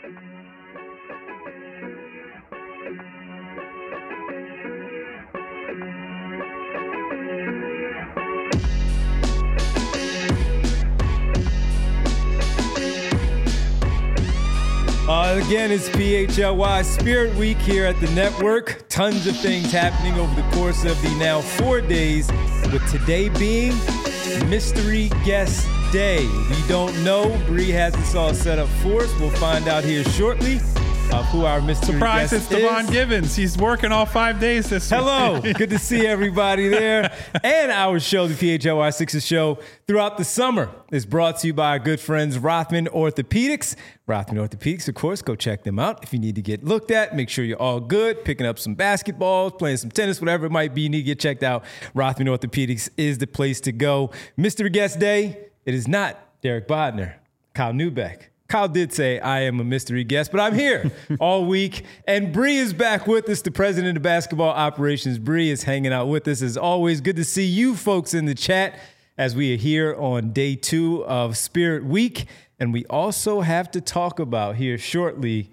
Again, it's PHLY Spirit Week here at the network. Tons of things happening over the course of the now 4 days, with today being Mystery Guest Day. If you don't know, Bree has this all set up for us. We'll find out here shortly who our mystery Surprise, guest it's Devon Givens. He's working all 5 days this week. Hello. Good to see everybody there. And our show, the PHLY Sixers show, throughout the summer is brought to you by our good friends, Rothman Orthopedics. Rothman Orthopedics, of course, go check them out. If you need to get looked at, make sure you're all good, picking up some basketballs, playing some tennis, whatever it might be, you need to get checked out. Rothman Orthopedics is the place to go. Mystery Guest Day, it is not Derek Bodner, Kyle Neubeck. Kyle did say I am a mystery guest, but I'm here all week. And Bree is back with us, the president of basketball operations. Bree is hanging out with us as always. Good to see you folks in the chat as we are here on day 2 of Spirit Week. And we also have to talk about here shortly,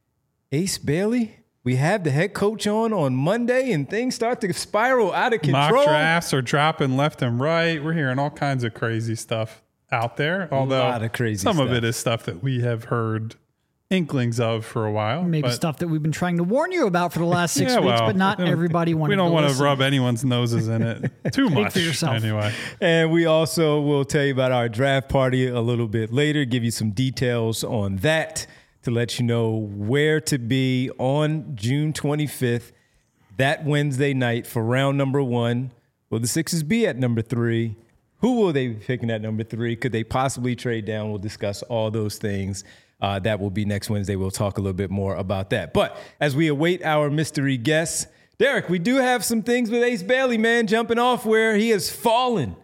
Ace Bailey. We have the head coach on Monday, and things start to spiral out of control. Mock drafts are dropping left and right. We're hearing all kinds of crazy stuff out there, although a lot of crazy some stuff. of it is stuff that we have heard inklings of for a while. Maybe stuff that we've been trying to warn you about for the last 6 weeks, but not everybody wanted to We don't want listen. to rub anyone's noses in it too much. For yourself. Anyway. And we also will tell you about our draft party a little bit later, give you some details on that to let you know where to be on June 25th, that Wednesday night for round number 1. Will the Sixers be at number 3? Who will they be picking at number 3? Could they possibly trade down? We'll discuss all those things. That will be next Wednesday. We'll talk a little bit more about that. But as we await our mystery guests, Derek, we do have some things with Ace Bailey, man, jumping off where he has fallen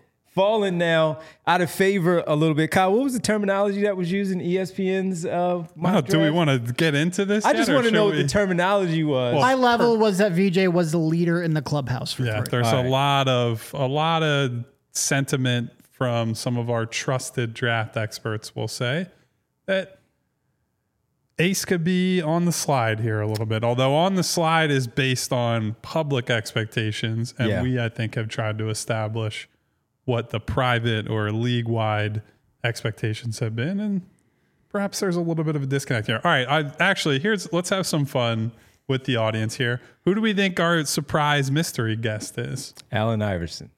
now out of favor a little bit. Kyle, what was the terminology that was used in ESPN's mock Do we draft? want to get into this? I just want to know what the terminology was. High level was that VJ was the leader in the clubhouse for 3. There's a lot of sentiment from some of our trusted draft experts will say that Ace could be on the slide here a little bit, although on the slide is based on public expectations. And we, I think, have tried to establish what the private or league-wide expectations have been. And perhaps there's a little bit of a disconnect here. All right, let's have some fun with the audience here. Who do we think our surprise mystery guest is? Allen Iverson.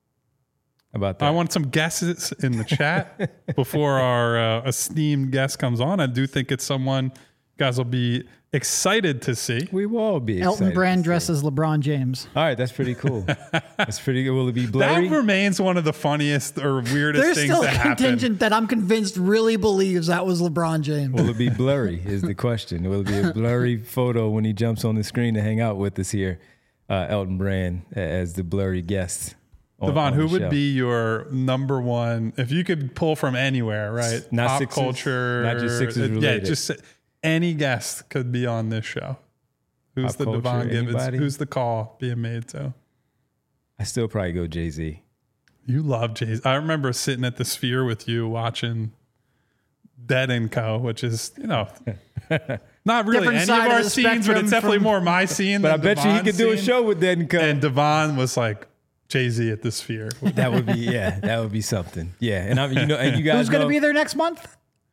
How about that? I want some guesses in the chat before our esteemed guest comes on. I do think it's someone you guys will be excited to see. We will all be excited. Elton Brand dressed as LeBron James. All right, that's pretty cool. That's pretty good. Will it be blurry? That remains one of the funniest or weirdest There's things still that a happen. contingent that I'm convinced really believes that was LeBron James. Will it be blurry is the question. Will it be a blurry photo when he jumps on the screen to hang out with us here, Elton Brand, as the blurry guest? Devon, who would be your number one, if you could pull from anywhere, right? Not Pop Sixers, culture. not just Sixers related. Yeah, just any guest could be on this show. Who's Pop the culture, Devon Givens? anybody? Who's the call being made to? I still probably go Jay-Z. You love Jay-Z. I remember sitting at the Sphere with you watching Dead & Co., which is, not really Different any of side our of the scenes, but it's spectrum definitely from- more my scene But I than bet you he Devon's could do a scene. show with Dead & Co. And Devon was like, Jay-Z at the Sphere. That would be something. Yeah, and and you guys Who's going know, to be there next month?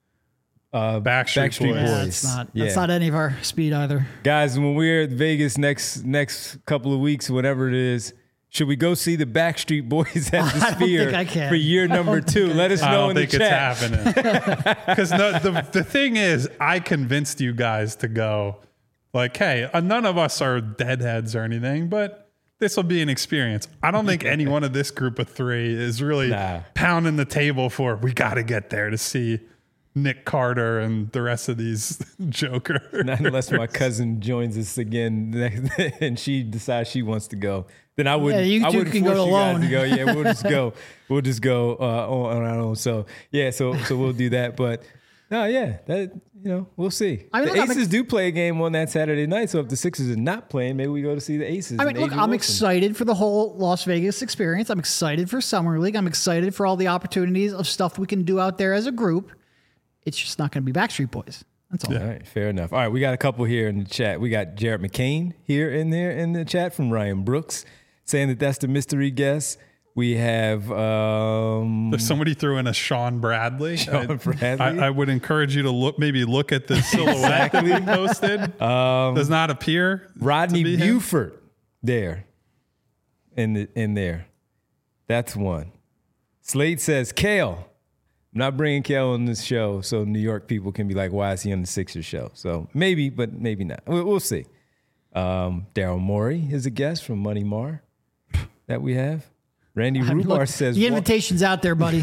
Backstreet Boys. Yeah, Boys. that's not any of our speed either. Guys, when we're at Vegas next couple of weeks, whatever it is, should we go see the Backstreet Boys at the I don't Sphere think I can. for year number 2? Let us know in the chat. I don't think it's happening. Because the thing is, I convinced you guys to go. Like, hey, none of us are deadheads or anything, but this will be an experience. I don't think any one of this group of 3 is really pounding the table for, we got to get there to see Nick Carter and the rest of these jokers. Not unless my cousin joins us again and she decides she wants to go. Then I wouldn't. Yeah, you I two wouldn't can force go you guys alone. to go. Yeah, we'll just go. We'll just go on our own. So yeah, so we'll do that. But no, yeah, that we'll see. I mean, the look, Aces do play a game on that Saturday night. So if the Sixers are not playing, maybe we go to see the Aces. I mean, and look, Adrian I'm Wilson. excited for the whole Las Vegas experience. I'm excited for Summer League. I'm excited for all the opportunities of stuff we can do out there as a group. It's just not going to be Backstreet Boys. That's all. All right, fair enough. All right, we got a couple here in the chat. We got Jared McCain here in the chat from Ryan Brooks saying that that's the mystery guest. We have somebody threw in a Sean Bradley. Sean Bradley. I would encourage you to look at the silhouette that we posted. Does not appear Rodney to be him. Buford there in there. That's one. Slade says Kale. I'm not bringing Kale on this show so New York people can be like, why is he on the Sixers show? So maybe, but maybe not. We'll see. Daryl Morey is a guest from Money Mar that we have. Randy Rubar says the invitation's out there, buddy.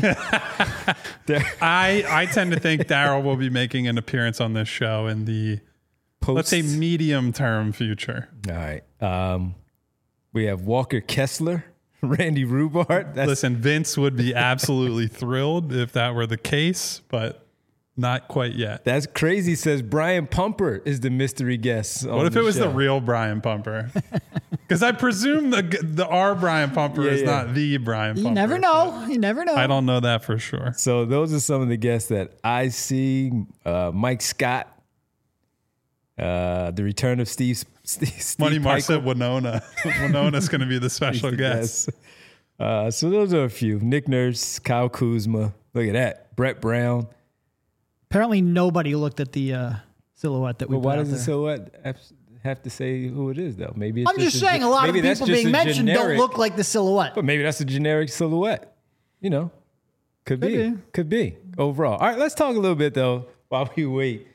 I tend to think Daryl will be making an appearance on this show in the let's say medium term future. All right. We have Walker Kessler, Randy Rubart. Listen, Vince would be absolutely thrilled if that were the case, but not quite yet. That's crazy. Says Brian Pumper is the mystery guest. What if it was the real Brian Pumper? Because I presume the our Brian Pumper is not the Brian Pumper. You never know. You never know. I don't know that for sure. So those are some of the guests that I see. Mike Scott, the return of Steve Money Mar Pikel. said Winona. Winona's going to be the special guest. So those are a few. Nick Nurse, Kyle Kuzma. Look at that. Brett Brown. Apparently, nobody looked at the silhouette that we put Why out does the there. silhouette have to say who it is, though? Maybe it's I'm just saying a lot of people being mentioned don't look like the silhouette. But maybe that's a generic silhouette. You know, could be overall. All right, let's talk a little bit though while we wait.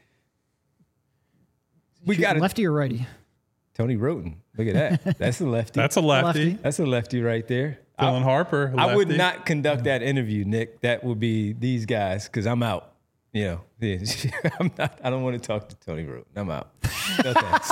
We got lefty or righty? Tony Roten. Look at that. That's a lefty. That's a lefty. That's a lefty right there. Dylan Harper. I would lefty. not conduct that interview, Nick. That would be these guys because I'm out. You know, I'm not. I don't want to talk to Tony Roten. I'm out. No thanks.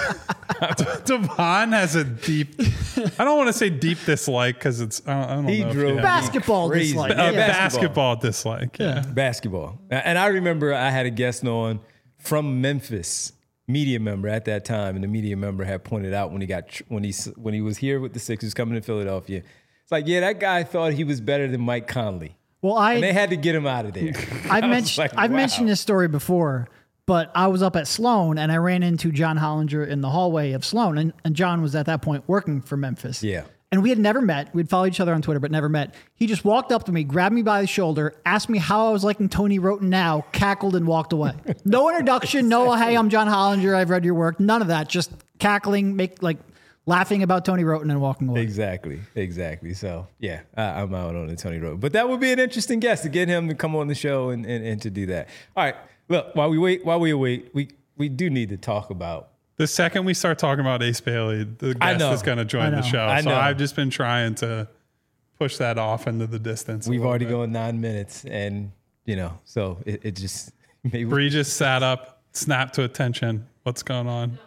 Devon has a deep. I don't want to say deep dislike because it's. I don't know. He if drove you have- Basketball crazy. dislike. basketball dislike. Yeah. Basketball. And I remember I had a guest on from Memphis, media member at that time, and the media member had pointed out when he was here with the Sixers coming to Philadelphia. It's like, yeah, that guy thought he was better than Mike Conley. Well, And they had to get him out of there. I've mentioned this story before, but I was up at Sloan and I ran into John Hollinger in the hallway of Sloan, and John was at that point working for Memphis. Yeah. And we had never met. We'd followed each other on Twitter, but never met. He just walked up to me, grabbed me by the shoulder, asked me how I was liking Tony Roten now, cackled and walked away. No introduction, no, hey, I'm John Hollinger, I've read your work, none of that. Just cackling, laughing about Tony Roten and walking away. Exactly. So, yeah, I'm out on the Tony Roten. But that would be an interesting guest to get him to come on the show and to do that. All right, look, while we wait, we do need to talk about. The second we start talking about Ace Bailey, the guest is going to join the show. So I've just been trying to push that off into the distance. We've already gone 9 minutes, and, so it just maybe. Bree just sat up, snapped to attention. What's going on?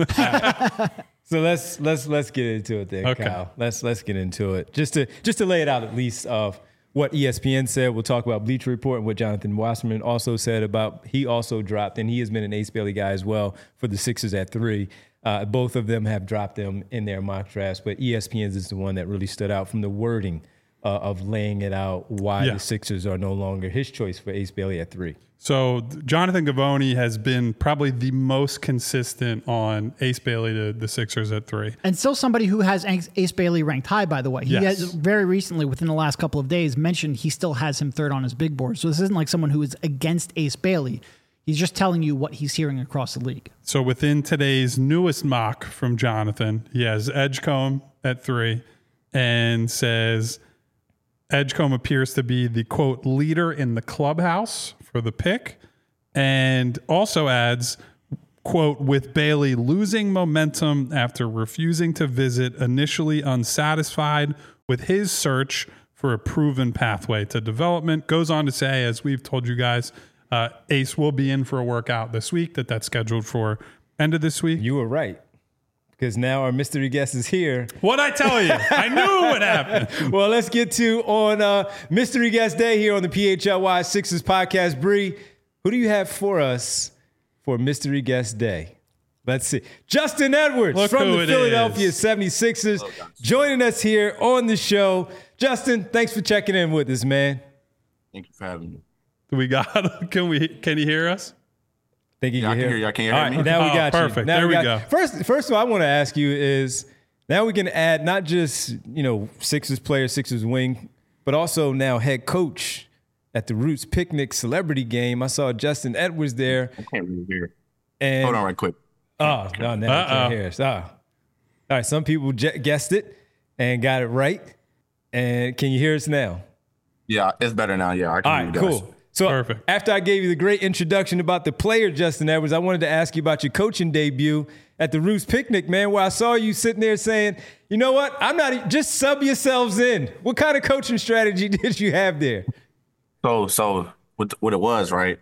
So let's get into it then, Okay. Kyle. Let's get into it. Just to lay it out at least of what ESPN said. We'll talk about Bleacher Report and what Jonathan Wasserman also said about he also dropped, and he has been an Ace Bailey guy as well for the Sixers at 3. Both of them have dropped them in their mock drafts, but ESPN's is the one that really stood out from the wording of laying it out why the Sixers are no longer his choice for Ace Bailey at 3. So Jonathan Givony has been probably the most consistent on Ace Bailey to the Sixers at 3. And still somebody who has Ace Bailey ranked high, by the way. He Yes. has very recently, within the last couple of days, mentioned he still has him third on his big board. So this isn't like someone who is against Ace Bailey. He's just telling you what he's hearing across the league. So within today's newest mock from Jonathan, he has Edgecombe at 3 and says Edgecombe appears to be the, quote, leader in the clubhouse for the pick, and also adds, quote, with Bailey losing momentum after refusing to visit, initially unsatisfied with his search for a proven pathway to development. Goes on to say, as we've told you guys, Ace will be in for a workout this week, that's scheduled for end of this week. You were right, because now our mystery guest is here. What'd I tell you? I knew what happened. Well, let's get to on Mystery Guest Day here on the PHLY Sixers podcast. Bree, who do you have for us for Mystery Guest Day? Let's see. Justin Edwards Look from who the it Philadelphia is. 76ers joining us here on the show. Justin, thanks for checking in with us, man. Thank you for having me. We got. Can you hear us? Think you Yeah, I can can hear? hear you. Can you All hear right, me? now we got you. Perfect. Now There we got go. you. First, what I want to ask you is, now we can add not just, Sixers player, Sixers wing, but also now head coach at the Roots Picnic celebrity game. I saw Justin Edwards there. I can't really hear. And Hold on right quick. Oh, no, now you can't hear us. All right, some people guessed it and got it right. And can you hear us now? Yeah, it's better now. Yeah, I can All hear right, you guys. cool. So Perfect. after I gave you the great introduction about the player, Justin Edwards, I wanted to ask you about your coaching debut at the Roots Picnic, man, where I saw you sitting there saying, you know what, just sub yourselves in. What kind of coaching strategy did you have there? So what it was, right?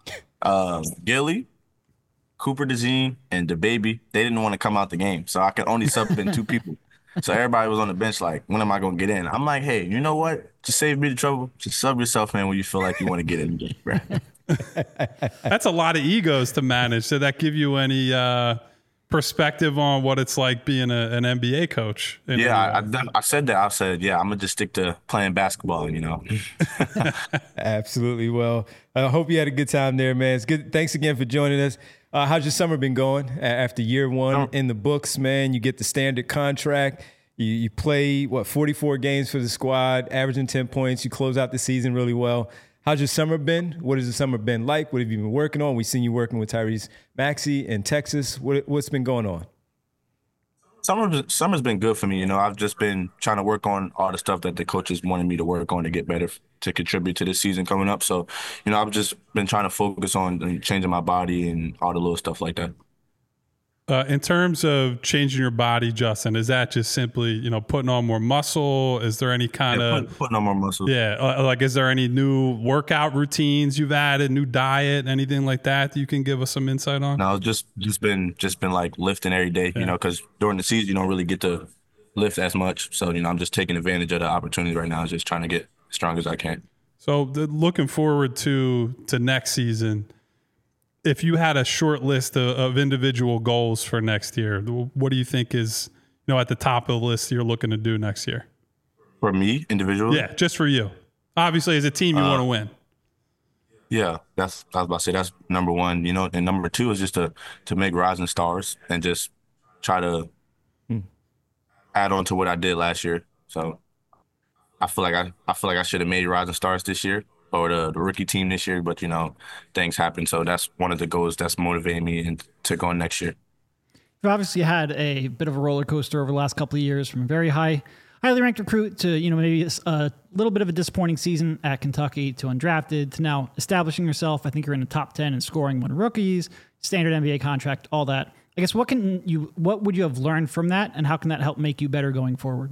Gilly, Cooper DeJean, and DaBaby, they didn't want to come out the game, so I could only sub in 2 people. So everybody was on the bench like, when am I going to get in? I'm like, hey, you know what? Just save me the trouble. Just sub yourself in when you feel like you want to get in the game, bro. That's a lot of egos to manage. Did that give you any perspective on what it's like being an NBA coach? Yeah, I said that. I said, yeah, I'm going to just stick to playing basketball, Absolutely. Well, I hope you had a good time there, man. It's good. Thanks again for joining us. How's your summer been going after year one in the books, man? You get the standard contract. You play, 44 games for the squad, averaging 10 points. You close out the season really well. How's your summer been? What has the summer been like? What have you been working on? We've seen you working with Tyrese Maxey in Texas. What's been going on? Summer's been good for me. I've just been trying to work on all the stuff that the coaches wanted me to work on to get better, to contribute to the season coming up. So, I've just been trying to focus on changing my body and all the little stuff like that. In terms of changing your body, Justin, is that just simply, putting on more muscle? Is there any kind of putting on more muscle? Yeah, is there any new workout routines you've added, new diet, anything like that you can give us some insight on? No, just been like lifting every day, because during the season you don't really get to lift as much. So I'm just taking advantage of the opportunity right now, just trying to get as strong as I can. So looking forward to next season. If you had a short list of individual goals for next year, what do you think is, at the top of the list you're looking to do next year? For me, individually? Yeah, just for you. Obviously, as a team, you want to win. Yeah, I was about to say that's number one, and number 2 is just to make Rising Stars and just try to add on to what I did last year. So I feel like I should have made Rising Stars this year, or the rookie team this year, but things happen. So that's one of the goals that's motivating me to go next year. You've obviously had a bit of a roller coaster over the last couple of years, from a very highly ranked recruit to, maybe a little bit of a disappointing season at Kentucky, to undrafted, to now establishing yourself. I think you're in the top 10 and scoring 1 rookies, standard NBA contract, all that. I guess what would you have learned from that, and how can that help make you better going forward?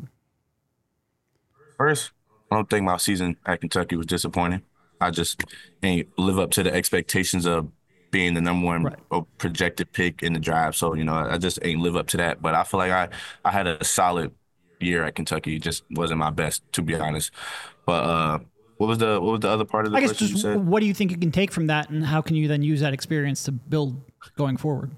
First, I don't think my season at Kentucky was disappointing. I just ain't live up to the expectations of being the number 1 projected pick in the draft. So, I just ain't live up to that. But I feel like I had a solid year at Kentucky. It just wasn't my best, to be honest. But what was the other part of the question you said? What do you think you can take from that, and how can you then use that experience to build going forward?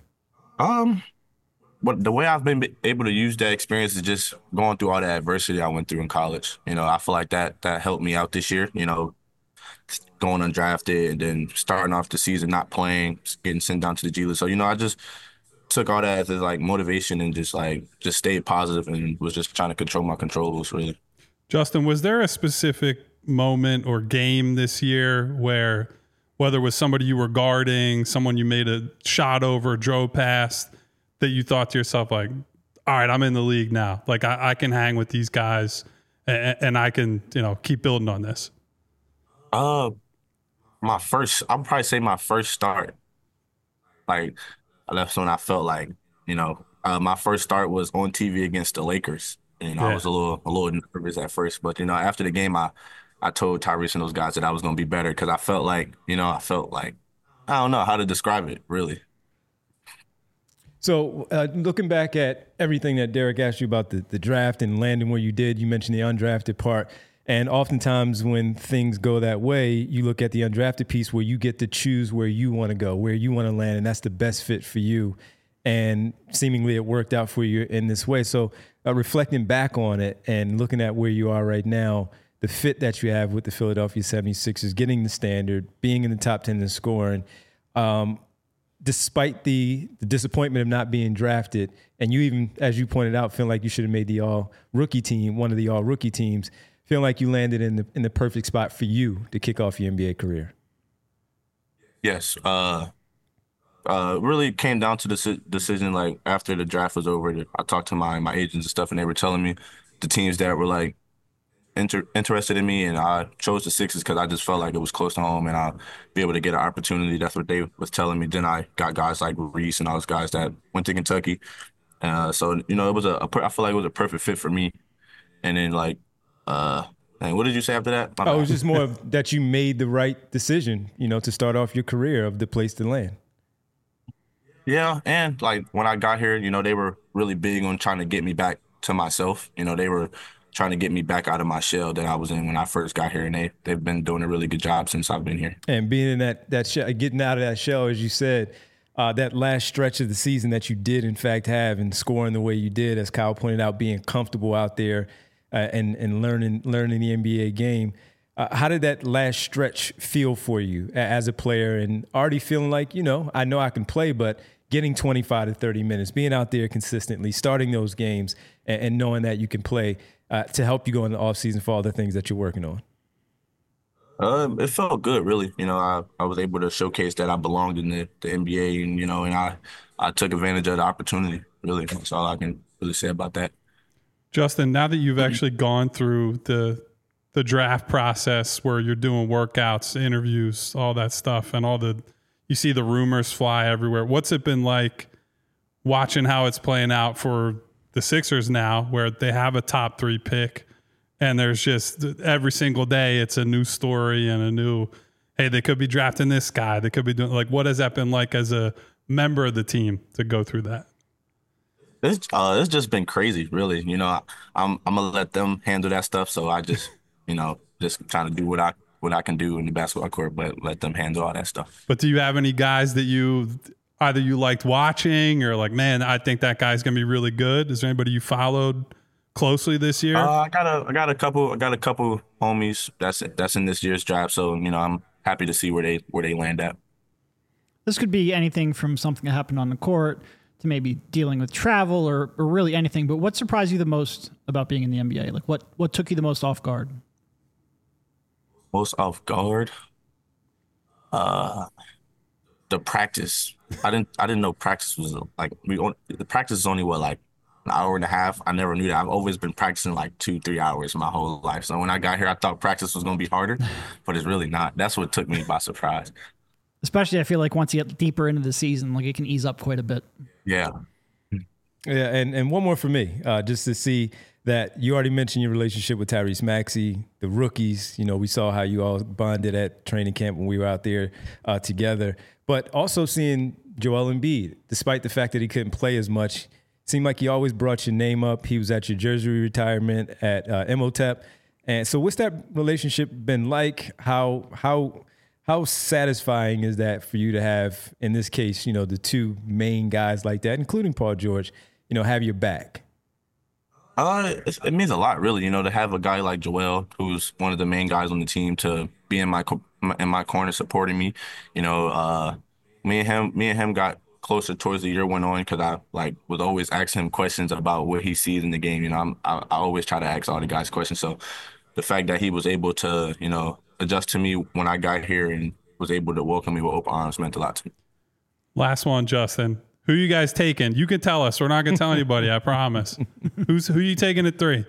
But the way I've been able to use that experience is just going through all the adversity I went through in college. I feel like that helped me out this year, going undrafted and then starting off the season not playing, getting sent down to the G League. So, I just took all that as like motivation and just stayed positive and was just trying to control my controllables, really. Justin, was there a specific moment or game this year where, whether it was somebody you were guarding, someone you made a shot over, drove past, that you thought to yourself, like, all right, I'm in the league now. Like, I can hang with these guys and I can, keep building on this? I'll probably say my first start. Like, that's when I felt like, my first start was on TV against the Lakers. And I was a little nervous at first. But, after the game, I told Tyrese and those guys that I was going to be better, because I felt like, I don't know how to describe it, really. So looking back at everything that Derek asked you about the draft and landing where you did, you mentioned the undrafted part. And oftentimes when things go that way, you look at the undrafted piece where you get to choose where you want to go, where you want to land, and that's the best fit for you. And seemingly it worked out for you in this way. So reflecting back on it and looking at where you are right now, the fit that you have with the Philadelphia 76ers, getting the standard, being in the top 10 in scoring, despite the disappointment of not being drafted, and you even, as you pointed out, feel like you should have made the all-rookie team, one of the all-rookie teams, feel like you landed in the perfect spot for you to kick off your NBA career. Yes. Really came down to the decision, like, after the draft was over. I talked to my agents and stuff, and they were telling me the teams that were, like, interested in me, and I chose the Sixers because I just felt like it was close to home and I'll be able to get an opportunity. That's what they was telling me. Then I got guys like Reese and all those guys that went to Kentucky. So, it was I feel like it was a perfect fit for me. And then, like, and what did you say after that? It was just more of that you made the right decision, to start off your career of the place to land. Yeah, and, like, when I got here, they were really big on trying to get me back to myself. They were trying to get me back out of my shell that I was in when I first got here, and they've been doing a really good job since I've been here. And being in that shell, getting out of that shell, as you said, that last stretch of the season that you did, in fact, have, and scoring the way you did, as Kyle pointed out, being comfortable out there and learning the NBA game. How did that last stretch feel for you as a player, and already feeling like, I know I can play, but getting 25 to 30 minutes, being out there consistently, starting those games, and knowing that you can play to help you go in the offseason for all the things that you're working on? It felt good, really. I was able to showcase that I belonged in the NBA, and I took advantage of the opportunity, really. That's all I can really say about that. Justin, now that you've actually gone through the draft process where you're doing workouts, interviews, all that stuff, and you see the rumors fly everywhere, what's it been like watching how it's playing out for the Sixers now, where they have a top 3 pick, and there's just every single day it's a new story and a new, hey, they could be drafting this guy, they could be doing, like, what has that been like as a member of the team to go through that? It's just been crazy, really. I'm gonna let them handle that stuff, so I just just trying to do what I can do in the basketball court, but let them handle all that stuff. But do you have any guys that you liked watching, or like, man, I think that guy's gonna be really good? Is there anybody you followed closely this year? I got a couple homies that's in this year's draft, so I'm happy to see where they land at. This could be anything from something that happened on the court to maybe dealing with travel or really anything. But what surprised you the most about being in the NBA? Like, what took you the most off guard? Most off guard? The practice. I didn't know practice was like, the practice is only like an hour and a half. I never knew that. I've always been practicing like 2-3 hours my whole life. So when I got here, I thought practice was going to be harder, but it's really not. That's what took me by surprise. Especially, I feel like once you get deeper into the season, like, it can ease up quite a bit. Yeah. Yeah, and one more for me, just to see that you already mentioned your relationship with Tyrese Maxey, the rookies. We saw how you all bonded at training camp when we were out there together. But also seeing Joel Embiid, despite the fact that he couldn't play as much, seemed like he always brought your name up. He was at your jersey retirement at Imhotep. And so what's that relationship been like? How satisfying is that for you to have, in this case, the two main guys like that, including Paul George, have your back? It means a lot, really, to have a guy like Joel, who's one of the main guys on the team, to be in my corner supporting me. Me and him got closer towards the year went on because I would always ask him questions about what he sees in the game. I always try to ask all the guys questions. So the fact that he was able to, adjust to me when I got here and was able to welcome me with open arms meant a lot to me. Last one, Justin. Who you guys taking? You can tell us. We're not going to tell anybody, I promise. Who you taking at 3?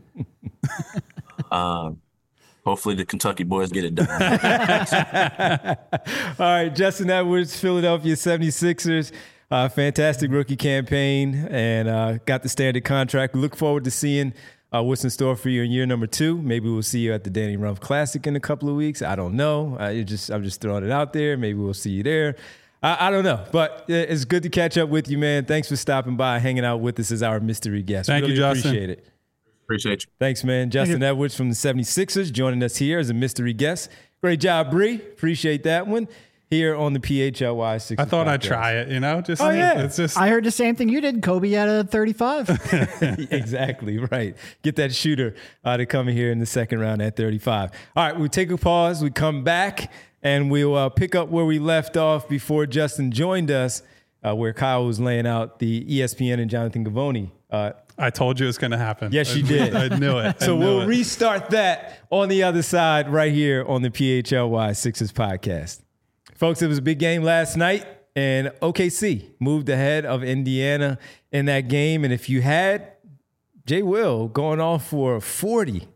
Hopefully the Kentucky boys get it done. All right, Justin Edwards, Philadelphia 76ers. Fantastic rookie campaign and got the standard contract. We look forward to seeing what's in store for you in year number 2. Maybe we'll see you at the Danny Rumpf Classic in a couple of weeks. I don't know. I'm just throwing it out there. Maybe we'll see you there. I don't know, but it's good to catch up with you, man. Thanks for stopping by, hanging out with us as our mystery guest. Thank you, Justin. Appreciate it. Appreciate you. Thanks, man. Justin Edwards from the 76ers joining us here as a mystery guest. Great job, Bree. Appreciate that one. Here on the PHLY 6. I thought I'd try it, Just, it's just. I heard the same thing you did. Kobe at a 35. Exactly, right. Get that shooter to come in here in the second round at 35. All right, we'll take a pause. We come back, and we'll pick up where we left off before Justin joined us, where Kyle was laying out the ESPN and Jonathan Givony. I told you it was going to happen. Yes, you did. I knew it. So we'll restart that on the other side right here on the PHLY Sixers podcast. Folks, it was a big game last night, and OKC moved ahead of Indiana in that game. And if you had Jay Will going off for 40,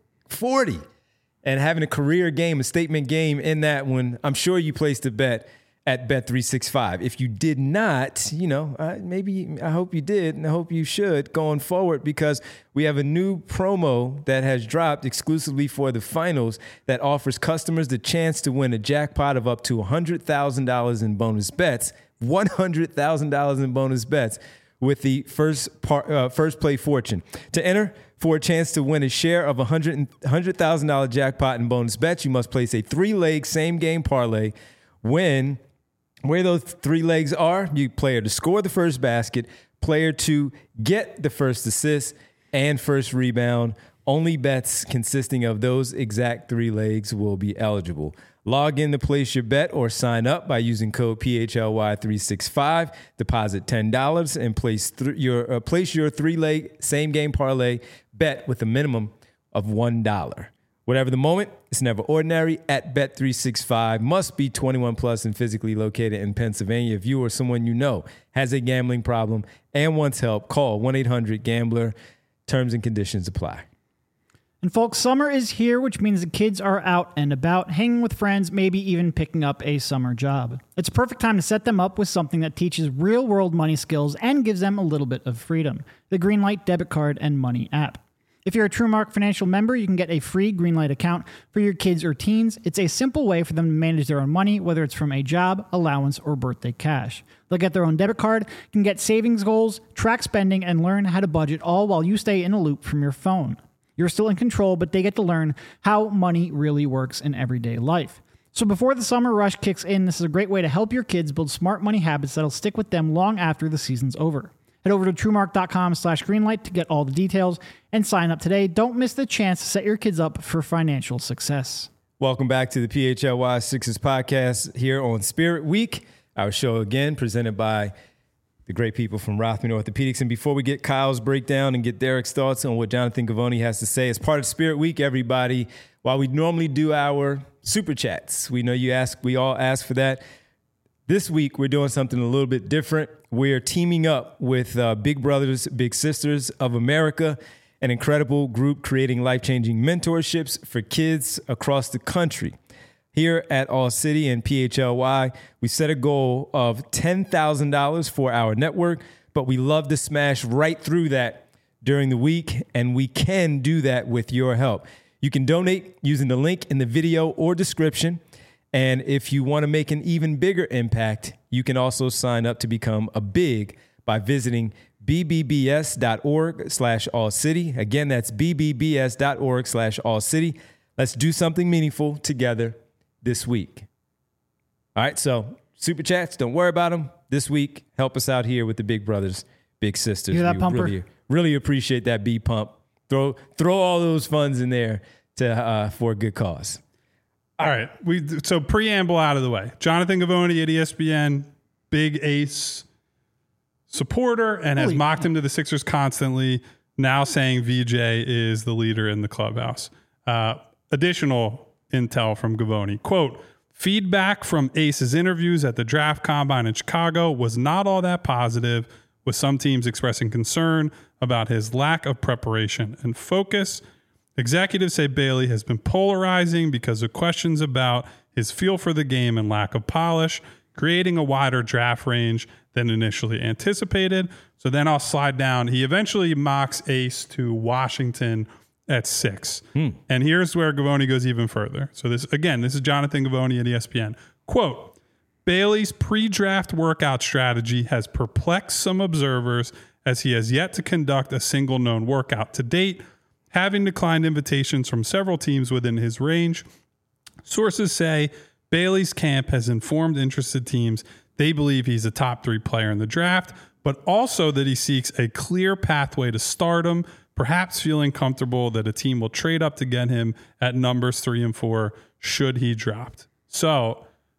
and having a career game, a statement game in that one, I'm sure you placed a bet at Bet365. If you did not, I hope you did, and I hope you should going forward, because we have a new promo that has dropped exclusively for the finals that offers customers the chance to win a jackpot of up to $100,000 in bonus bets, $100,000 in bonus bets with the first play fortune. To enter for a chance to win a share of $100,000 jackpot in bonus bets, you must place a 3-leg same game parlay. Where those 3 legs are, you player to score the first basket, player to get the first assist and first rebound. Only bets consisting of those exact 3 legs will be eligible. Log in to place your bet or sign up by using code PHLY365. Deposit $10 and place your 3-leg same game parlay bet with a minimum of $1. Whatever the moment, it's never ordinary. At Bet365, must be 21 plus and physically located in Pennsylvania. If you or someone you know has a gambling problem and wants help, call 1-800-GAMBLER. Terms and conditions apply. And folks, summer is here, which means the kids are out and about, hanging with friends, maybe even picking up a summer job. It's a perfect time to set them up with something that teaches real-world money skills and gives them a little bit of freedom. The Greenlight debit card and money app. If you're a TrueMark Financial member, you can get a free Greenlight account for your kids or teens. It's a simple way for them to manage their own money, whether it's from a job, allowance, or birthday cash. They'll get their own debit card, can get savings goals, track spending, and learn how to budget, all while you stay in a loop from your phone. You're still in control, but they get to learn how money really works in everyday life. So before the summer rush kicks in, this is a great way to help your kids build smart money habits that'll stick with them long after the season's over. Head over to TrueMark.com/Greenlight to get all the details and sign up today. Don't miss the chance to set your kids up for financial success. Welcome back to the PHLY Sixers podcast here on Spirit Week. Our show again presented by the great people from Rothman Orthopedics. And before we get Kyle's breakdown and get Derek's thoughts on what Jonathan Givony has to say, as part of Spirit Week, everybody, while we normally do our super chats, we know we all ask for that. This week, we're doing something a little bit different. We're teaming up with Big Brothers, Big Sisters of America, an incredible group creating life-changing mentorships for kids across the country. Here at All City and PHLY, we set a goal of $10,000 for our network, but we love to smash right through that during the week, and we can do that with your help. You can donate using the link in the video or description. And if you want to make an even bigger impact, you can also sign up to become a big by visiting bbbs.org/allcity. Again, that's bbbs.org/allcity. Let's do something meaningful together this week. All right, so super chats, don't worry about them. This week, help us out here with the Big Brothers, Big Sisters. You hear that, Pumper? Really appreciate that B pump. Throw all those funds in there for a good cause. All right. So preamble out of the way. Jonathan Givony at ESPN, big Ace supporter, and has mocked him to the Sixers constantly, now saying VJ is the leader in the clubhouse. Additional intel from Givony. Quote, feedback from Ace's interviews at the draft combine in Chicago was not all that positive, with some teams expressing concern about his lack of preparation and focus. Executives say Bailey has been polarizing because of questions about his feel for the game and lack of polish, creating a wider draft range than initially anticipated. So then I'll slide down. He eventually mocks Ace to Washington at 6. And here's where Givony goes even further. So this is Jonathan Givony at ESPN. Quote, Bailey's pre-draft workout strategy has perplexed some observers as he has yet to conduct a single known workout to date, having declined invitations from several teams within his range. Sources say Bailey's camp has informed interested teams they believe he's a top 3 player in the draft, but also that he seeks a clear pathway to stardom, perhaps feeling comfortable that a team will trade up to get him at numbers 3 and 4 should he drop. So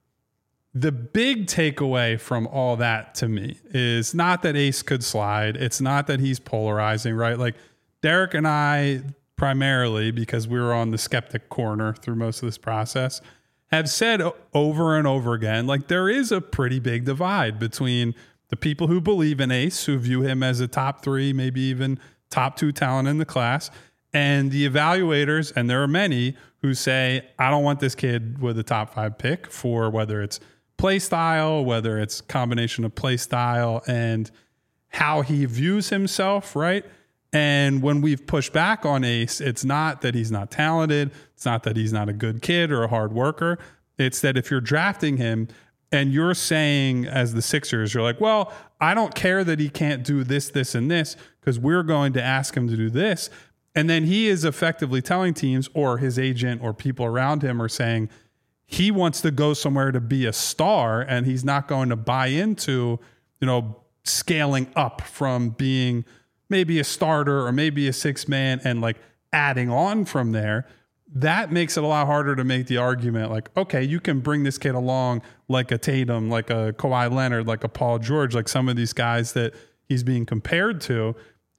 the big takeaway from all that to me is not that Ace could slide. It's not that he's polarizing, right? Like Derek and I, primarily because we were on the skeptic corner through most of this process, have said over and over again, like there is a pretty big divide between the people who believe in Ace, who view him as a top 3, maybe even top 2 talent in the class, and the evaluators, and there are many who say, I don't want this kid with a top 5 pick for whether it's play style, whether it's combination of play style and how he views himself, right? And when we've pushed back on Ace, it's not that he's not talented. It's not that he's not a good kid or a hard worker. It's that if you're drafting him and you're saying as the Sixers, you're like, well, I don't care that he can't do this, this, and this because we're going to ask him to do this. And then he is effectively telling teams or his agent or people around him are saying, he wants to go somewhere to be a star and he's not going to buy into, scaling up from being maybe a starter or maybe a 6-man and like adding on from there. That makes it a lot harder to make the argument like, okay, you can bring this kid along like a Tatum, like a Kawhi Leonard, like a Paul George, like some of these guys that he's being compared to.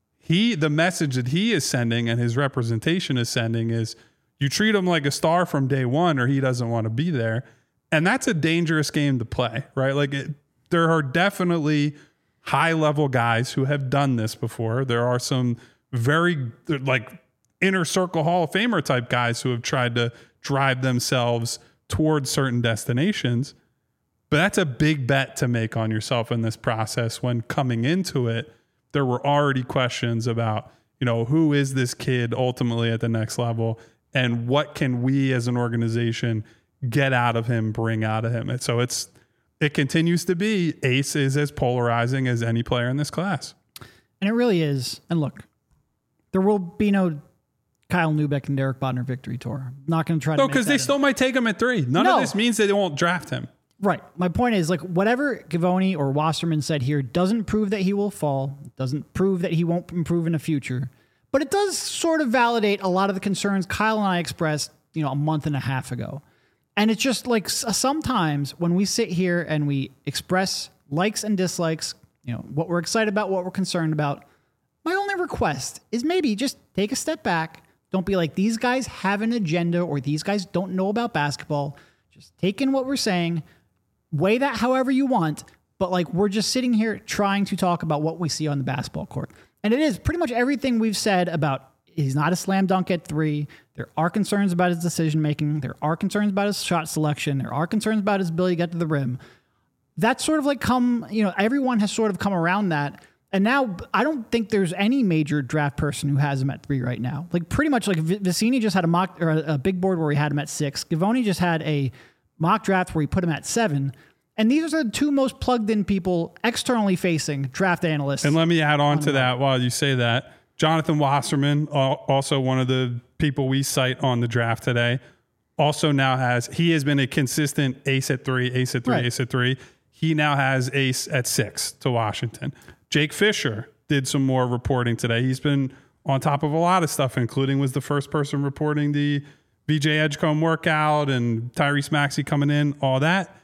The message that he is sending and his representation is sending is, you treat him like a star from day one or he doesn't want to be there. And that's a dangerous game to play, right? Like there are definitely high-level guys who have done this before. There are some very like inner circle Hall of Famer type guys who have tried to drive themselves towards certain destinations. But that's a big bet to make on yourself in this process when coming into it, there were already questions about, who is this kid ultimately at the next level? And what can we as an organization get out of him, bring out of him? And so it continues to be Ace is as polarizing as any player in this class. And it really is. And look, there will be no Kyle Neubeck and Derek Bodner victory tour. I'm not going to try to. No, because they still might take him at 3. None of this means they won't draft him. Right. My point is, like, whatever Givony or Wasserman said here doesn't prove that he will fall. It doesn't prove that he won't improve in the future. But it does sort of validate a lot of the concerns Kyle and I expressed, a month and a half ago. And it's just like sometimes when we sit here and we express likes and dislikes, what we're excited about, what we're concerned about, my only request is maybe just take a step back. Don't be like, these guys have an agenda or these guys don't know about basketball. Just take in what we're saying, weigh that however you want. But like, we're just sitting here trying to talk about what we see on the basketball court. And it is pretty much everything we've said about he's not a slam dunk at 3. There are concerns about his decision-making. There are concerns about his shot selection. There are concerns about his ability to get to the rim. That's sort of like everyone has sort of come around that. And now I don't think there's any major draft person who has him at 3 right now. Like pretty much like Vicini just had a mock or a big board where he had him at 6. Givony just had a mock draft where he put him at 7. And these are the 2 most plugged in people externally facing draft analysts. And let me add on to that while you say that. Jonathan Wasserman, also one of the people we cite on the draft today, also now he has been a consistent ace at 3, ace at 3, right. Ace at 3. He now has ace at 6 to Washington. Jake Fisher did some more reporting today. He's been on top of a lot of stuff, including was the first person reporting the VJ Edgecombe workout and Tyrese Maxey coming in, all that.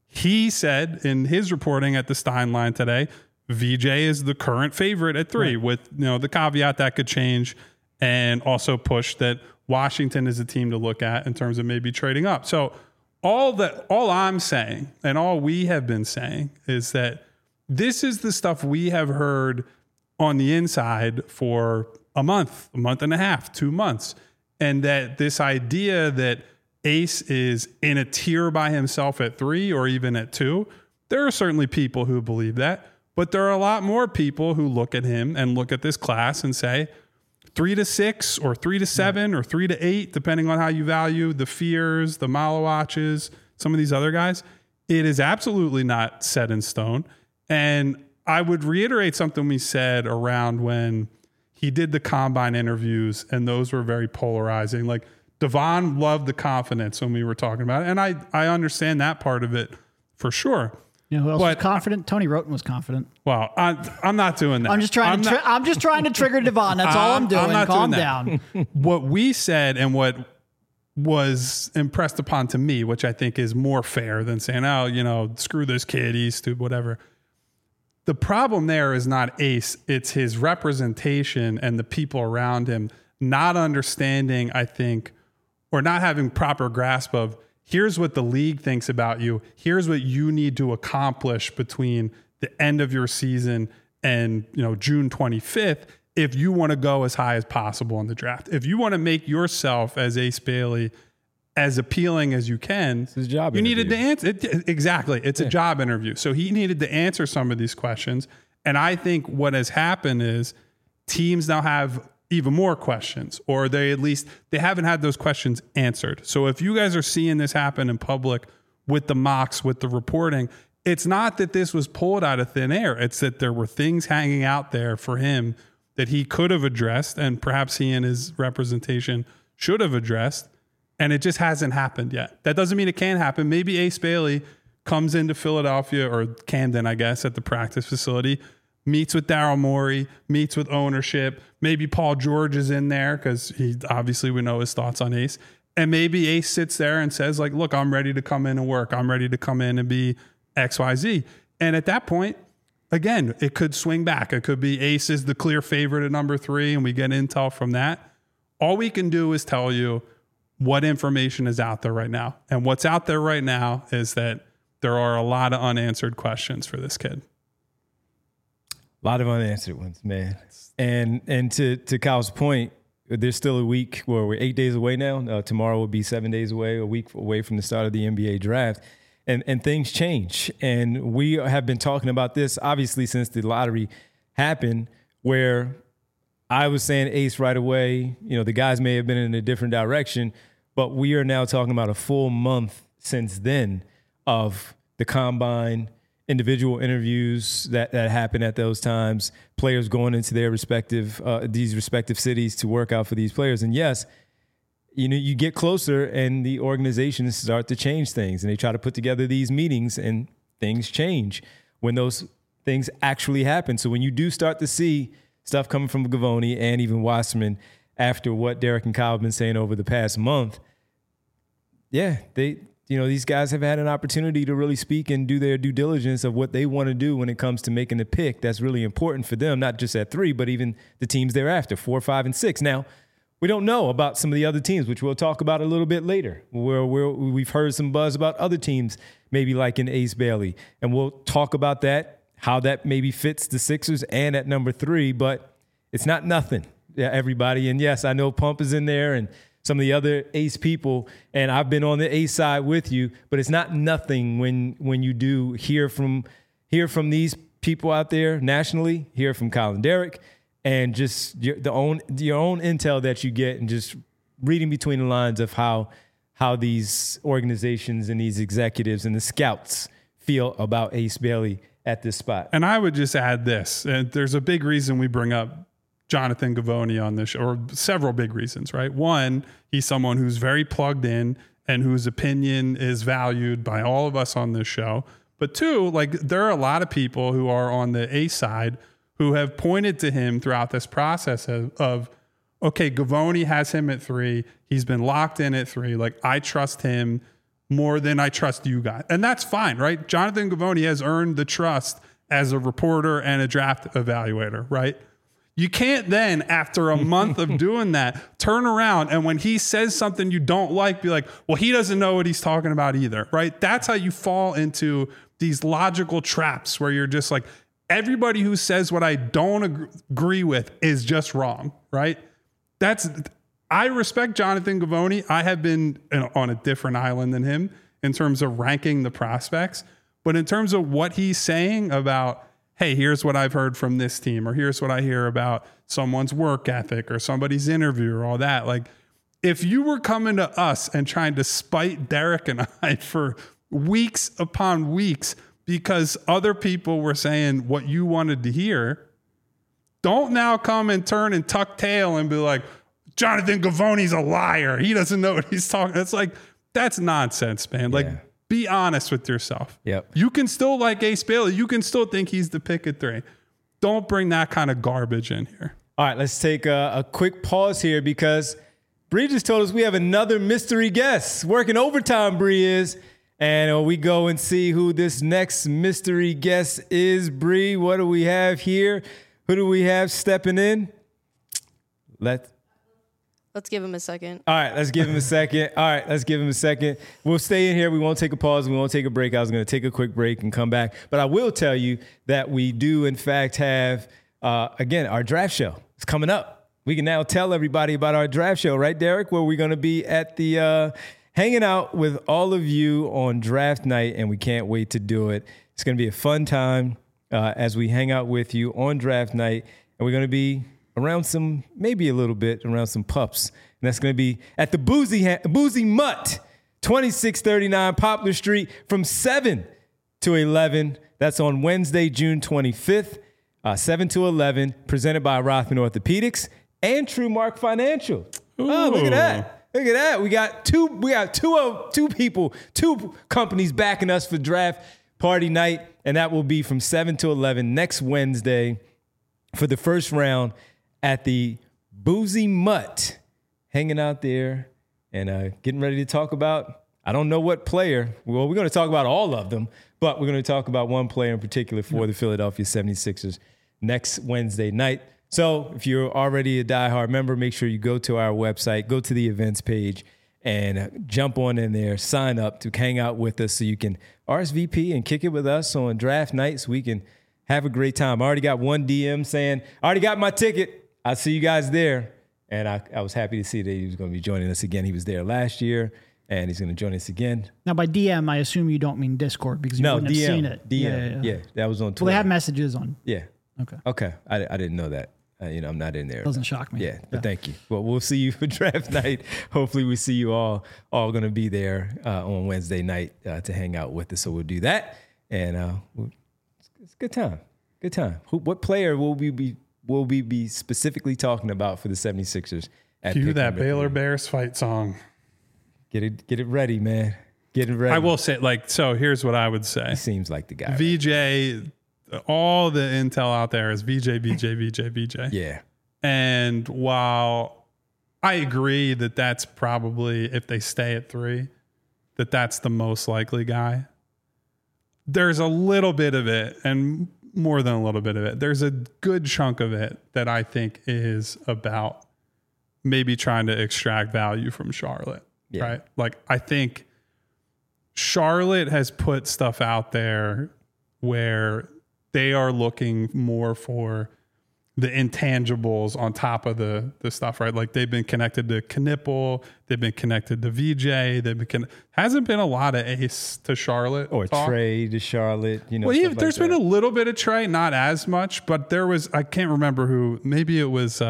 He said in his reporting at the Stein line today, VJ is the current favorite at 3, right, with the caveat that could change, and also push that Washington is a team to look at in terms of maybe trading up. So all I'm saying and all we have been saying is that this is the stuff we have heard on the inside for a month and a half, 2 months, and that this idea that Ace is in a tier by himself at 3 or even at 2, there are certainly people who believe that. But there are a lot more people who look at him and look at this class and say 3 to 6 or 3 to 7 or 3 to 8, depending on how you value the Fears, the Malawatches, some of these other guys. It is absolutely not set in stone. And I would reiterate something we said around when he did the combine interviews, and those were very polarizing. Like Devon loved the confidence when we were talking about it. And I understand that part of it for sure. Who else was confident? Tony Roten was confident. Well, I'm not doing that. I'm just trying to trigger Devon. That's all I'm doing. Calm down. What we said and what was impressed upon to me, which I think is more fair than saying, oh, you know, screw this kid, he's stupid, whatever. The problem there is not Ace, it's his representation and the people around him not understanding, I think, or not having proper grasp of, here's what the league thinks about you. Here's what you need to accomplish between the end of your season and, you know, June 25th if you want to go as high as possible in the draft. If you want to make yourself as Ace Bailey as appealing as you can, it's his job you interview. needed to answer. Exactly. It's a job interview. So he needed to answer some of these questions. And I think what has happened is teams now have even more questions, or they haven't had those questions answered. So if you guys are seeing this happen in public with the mocks, with the reporting, it's not that this was pulled out of thin air. It's that there were things hanging out there for him that he could have addressed, and perhaps he and his representation should have addressed. And it just hasn't happened yet. That doesn't mean it can't happen. Maybe Ace Bailey comes into Philadelphia or Camden, I guess, at the practice facility, meets with Daryl Morey, meets with ownership. Maybe Paul George is in there because we know his thoughts on Ace. And maybe Ace sits there and says, like, look, I'm ready to come in and work. I'm ready to come in and be XYZ. And at that point, again, it could swing back. It could be Ace is the clear favorite at number 3, and we get intel from that. All we can do is tell you what information is out there right now. And what's out there right now is that there are a lot of unanswered questions for this kid. A lot of unanswered ones, man. And to Kyle's point, there's still a week where we're 8 days away now. Tomorrow will be 7 days away, a week away from the start of the NBA draft. And things change. And we have been talking about this, obviously, since the lottery happened, where I was saying Ace right away. You know, the guys may have been in a different direction, but we are now talking about a full month since then of the combine, individual interviews that happen at those times, players going into their respective these respective cities to work out for these players. And yes, you know, you get closer and the organizations start to change things, and they try to put together these meetings, and things change when those things actually happen. So when you do start to see stuff coming from Gavoni and even Wasserman after what Derek and Kyle have been saying over the past month, yeah, these guys have had an opportunity to really speak and do their due diligence of what they want to do when it comes to making the pick. That's really important for them, not just at 3, but even the teams thereafter, 4, 5, and 6. Now, we don't know about some of the other teams, which we'll talk about a little bit later, where we've heard some buzz about other teams, maybe like in Ace Bailey. And we'll talk about that, how that maybe fits the Sixers and at number 3, but it's not nothing, everybody. And yes, I know Pump is in there and some of the other Ace people, and I've been on the Ace side with you, but it's not nothing when you do hear from these people out there nationally, hear from Colin Derrick, and just your own intel that you get, and just reading between the lines of how these organizations and these executives and the scouts feel about Ace Bailey at this spot. And I would just add this, and there's a big reason we bring up Jonathan Gavoni on this show, or several big reasons, right? One, he's someone who's very plugged in and whose opinion is valued by all of us on this show. But 2, like, there are a lot of people who are on the Ace side who have pointed to him throughout this process of okay, Gavoni has him at 3. He's been locked in at 3. Like, I trust him more than I trust you guys. And that's fine, right? Jonathan Gavoni has earned the trust as a reporter and a draft evaluator, right? You can't then, after a month of doing that, turn around and when he says something you don't like, be like, well, he doesn't know what he's talking about either, right? That's how you fall into these logical traps where you're just like, everybody who says what I don't agree with is just wrong, right? I respect Jonathan Gavoni. I have been on a different island than him in terms of ranking the prospects, but in terms of what he's saying about, hey, here's what I've heard from this team, or here's what I hear about someone's work ethic or somebody's interview or all that. Like, if you were coming to us and trying to spite Derek and I for weeks upon weeks because other people were saying what you wanted to hear, don't now come and turn and tuck tail and be like, Jonathan Gavoni's a liar. He doesn't know what he's talking. It's like, that's nonsense, man. Like, be honest with yourself. Yep. You can still like Ace Bailey. You can still think he's the pick at 3. Don't bring that kind of garbage in here. All right, let's take a quick pause here because Bree just told us we have another mystery guest. Working overtime, Bree is. And we go and see who this next mystery guest is. Bree, what do we have here? Who do we have stepping in? Let's give him a second. All right, let's give him a second. We'll stay in here. We won't take a pause. We won't take a break. I was going to take a quick break and come back. But I will tell you that we do, in fact, have, again, our draft show. It's coming up. We can now tell everybody about our draft show, right, Derek? Where we're going to be at the hanging out with all of you on draft night, and we can't wait to do it. It's going to be a fun time as we hang out with you on draft night, and we're going to be around some pups. And that's going to be at the Boozy Mutt, 2639 Poplar Street from 7 to 11. That's on Wednesday, June 25th, 7 to 11, presented by Rothman Orthopedics and TrueMark Financial. Ooh. Oh, look at that. Look at that. We got two companies backing us for draft party night, and that will be from 7 to 11 next Wednesday for the first round at the Boozy Mutt, hanging out there and getting ready to talk about, I don't know what player. Well, we're going to talk about all of them, but we're going to talk about one player in particular for the Philadelphia 76ers next Wednesday night. So if you're already a diehard member, make sure you go to our website, go to the events page, and jump on in there, sign up to hang out with us so you can RSVP and kick it with us on draft nights. We can have a great time. I already got one DM saying, I already got my ticket. I'll see you guys there. And I was happy to see that he was going to be joining us again. He was there last year, and he's going to join us again. Now, by DM, I assume you don't mean Discord because you wouldn't have seen it. DM. Yeah, that was on Twitter. Well, they have messages on. Yeah. Okay. I didn't know that. I'm not in there. Doesn't shock me. Yeah, but thank you. Well, we'll see you for draft night. Hopefully we see you all going to be there on Wednesday night to hang out with us. So we'll do that. And it's a good time. Good time. What player will we be specifically talking about for the 76ers? Cue that Baylor Bears fight song. Get it ready, man. Get it ready. I will say, so here's what I would say. He seems like the guy. VJ, all the intel out there is VJ. Yeah. And while I agree that that's probably, if they stay at 3, that's the most likely guy, there's a little bit of it, and more than a little bit of it, there's a good chunk of it that I think is about maybe trying to extract value from Charlotte, right? I think Charlotte has put stuff out there where they are looking more for the intangibles on top of the stuff, right? They've been connected to Knipple, they've been connected to VJ, hasn't been a lot of Ace to Charlotte or Trey to Charlotte. Well, there's been a little bit of Trey, not as much, but there was, I can't remember who, maybe it was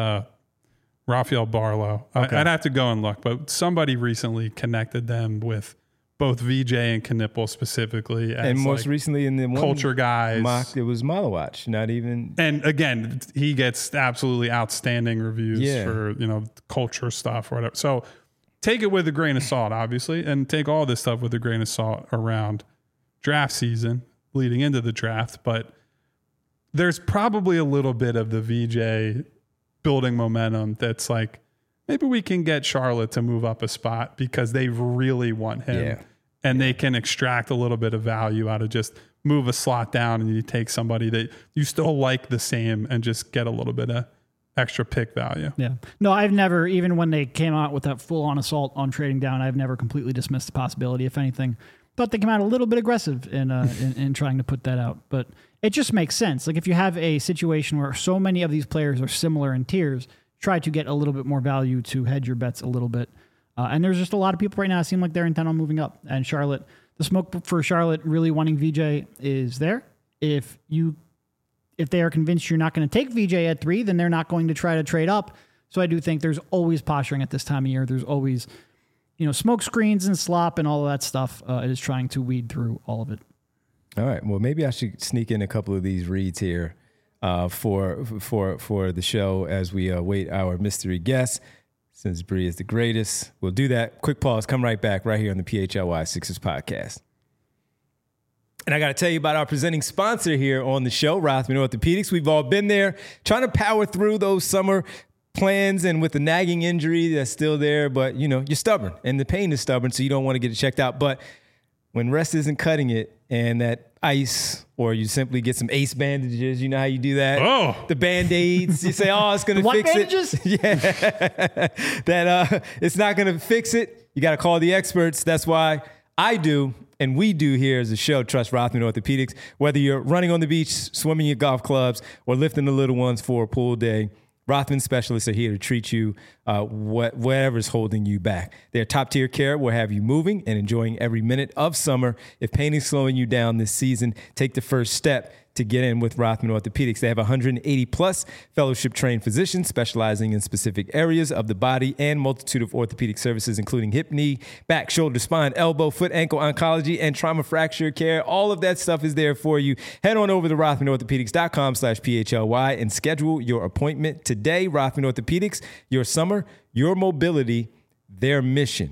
Rafael Barlow. Okay. I'd have to go and look, but somebody recently connected them with both VJ and Knipple specifically. And most recently in the culture guys. It was Malawach, not even. And again, he gets absolutely outstanding reviews for, culture stuff or whatever. So take it with a grain of salt, obviously, and take all this stuff with a grain of salt around draft season leading into the draft. But there's probably a little bit of the VJ building momentum that's maybe we can get Charlotte to move up a spot because they really want him. Yeah. And they can extract a little bit of value out of just move a slot down and you take somebody that you still like the same and just get a little bit of extra pick value. Yeah. No, I've never, even when they came out with that full on assault on trading down, I've never completely dismissed the possibility. If anything, thought they came out a little bit aggressive in trying to put that out. But it just makes sense. If you have a situation where so many of these players are similar in tiers, try to get a little bit more value to hedge your bets a little bit. And there's just a lot of people right now that seem like they're intent on moving up. And Charlotte, the smoke for Charlotte really wanting VJ is there. If they are convinced you're not going to take VJ at 3, then they're not going to try to trade up. So I do think there's always posturing at this time of year. There's always, smoke screens and slop and all of that stuff is trying to weed through all of it. All right. Well, maybe I should sneak in a couple of these reads here for the show as we await our mystery guest. Since Bree is the greatest, we'll do that. Quick pause. Come right back right here on the PHLY Sixers podcast. And I got to tell you about our presenting sponsor here on the show, Rothman Orthopedics. We've all been there trying to power through those summer plans and with the nagging injury that's still there, but you're stubborn and the pain is stubborn, so you don't want to get it checked out. But when rest isn't cutting it and that ice, or you simply get some ACE bandages, you know how you do that? Oh. The Band-Aids, you say, it's going to fix bandages? it. Yeah. That it's not going to fix it. You got to call the experts. That's why I do, and we do here as a show, Trust Rothman Orthopedics. Whether you're running on the beach, swimming your golf clubs, or lifting the little ones for a pool day, Rothman specialists are here to treat you whatever's holding you back. Their top-tier care will have you moving and enjoying every minute of summer. If pain is slowing you down this season, take the first step to get in with Rothman Orthopedics. They have 180-plus fellowship-trained physicians specializing in specific areas of the body and multitude of orthopedic services, including hip, knee, back, shoulder, spine, elbow, foot, ankle, oncology, and trauma fracture care. All of that stuff is there for you. Head on over to RothmanOrthopedics.com/PHLY and schedule your appointment today. Rothman Orthopedics, your summer, your mobility, their mission.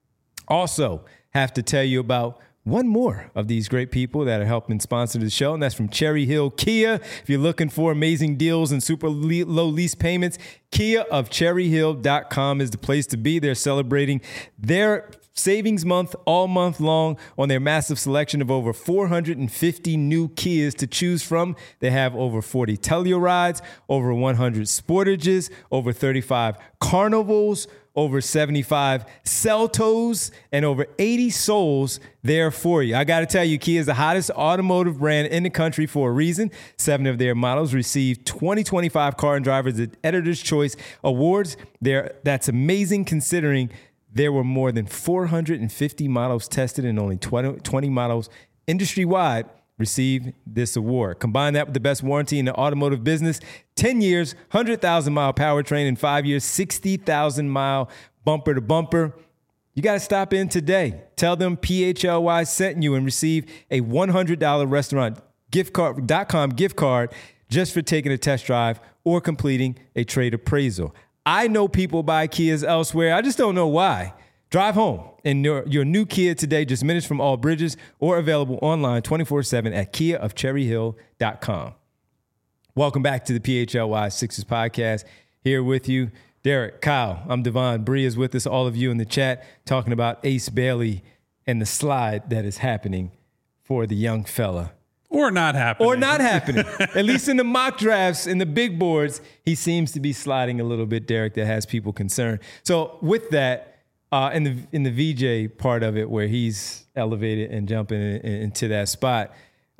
Also, have to tell you about one more of these great people that are helping sponsor the show, and that's from Cherry Hill Kia. If you're looking for amazing deals and super low lease payments, KiaofCherryhill.com is the place to be. They're celebrating their savings month all month long on their massive selection of over 450 new Kias to choose from. They have over 40 Tellurides, over 100 Sportages, over 35 Carnivals, over 75 Celtos, and over 80 Souls there for you. I got to tell you, Kia is the hottest automotive brand in the country for a reason. 7 of their models received 2025 Car and Driver's Editor's Choice Awards. That's amazing considering there were more than 450 models tested and only 20 models industry-wide received this award. Combine that with the best warranty in the automotive business, 10 years, 100,000-mile powertrain, and 5 years, 60,000-mile bumper-to-bumper. You got to stop in today. Tell them PHLY sent you and receive a $100 restaurant gift.com gift card just for taking a test drive or completing a trade appraisal. I know people buy Kias elsewhere. I just don't know why. Drive home in your new Kia today, just minutes from all bridges, or available online 24/7 at KiaofCherryhill.com. Welcome back to the PHLY Sixers podcast. Here with you, Derek, Kyle. I'm Devon. Bree is with us, all of you in the chat, talking about Ace Bailey and the slide that is happening for the young fella. Or not happening. Or not happening. At least in the mock drafts, in the big boards, he seems to be sliding a little bit, Derek, that has people concerned. So with that, in the VJ part of it, where he's elevated and jumping into that spot,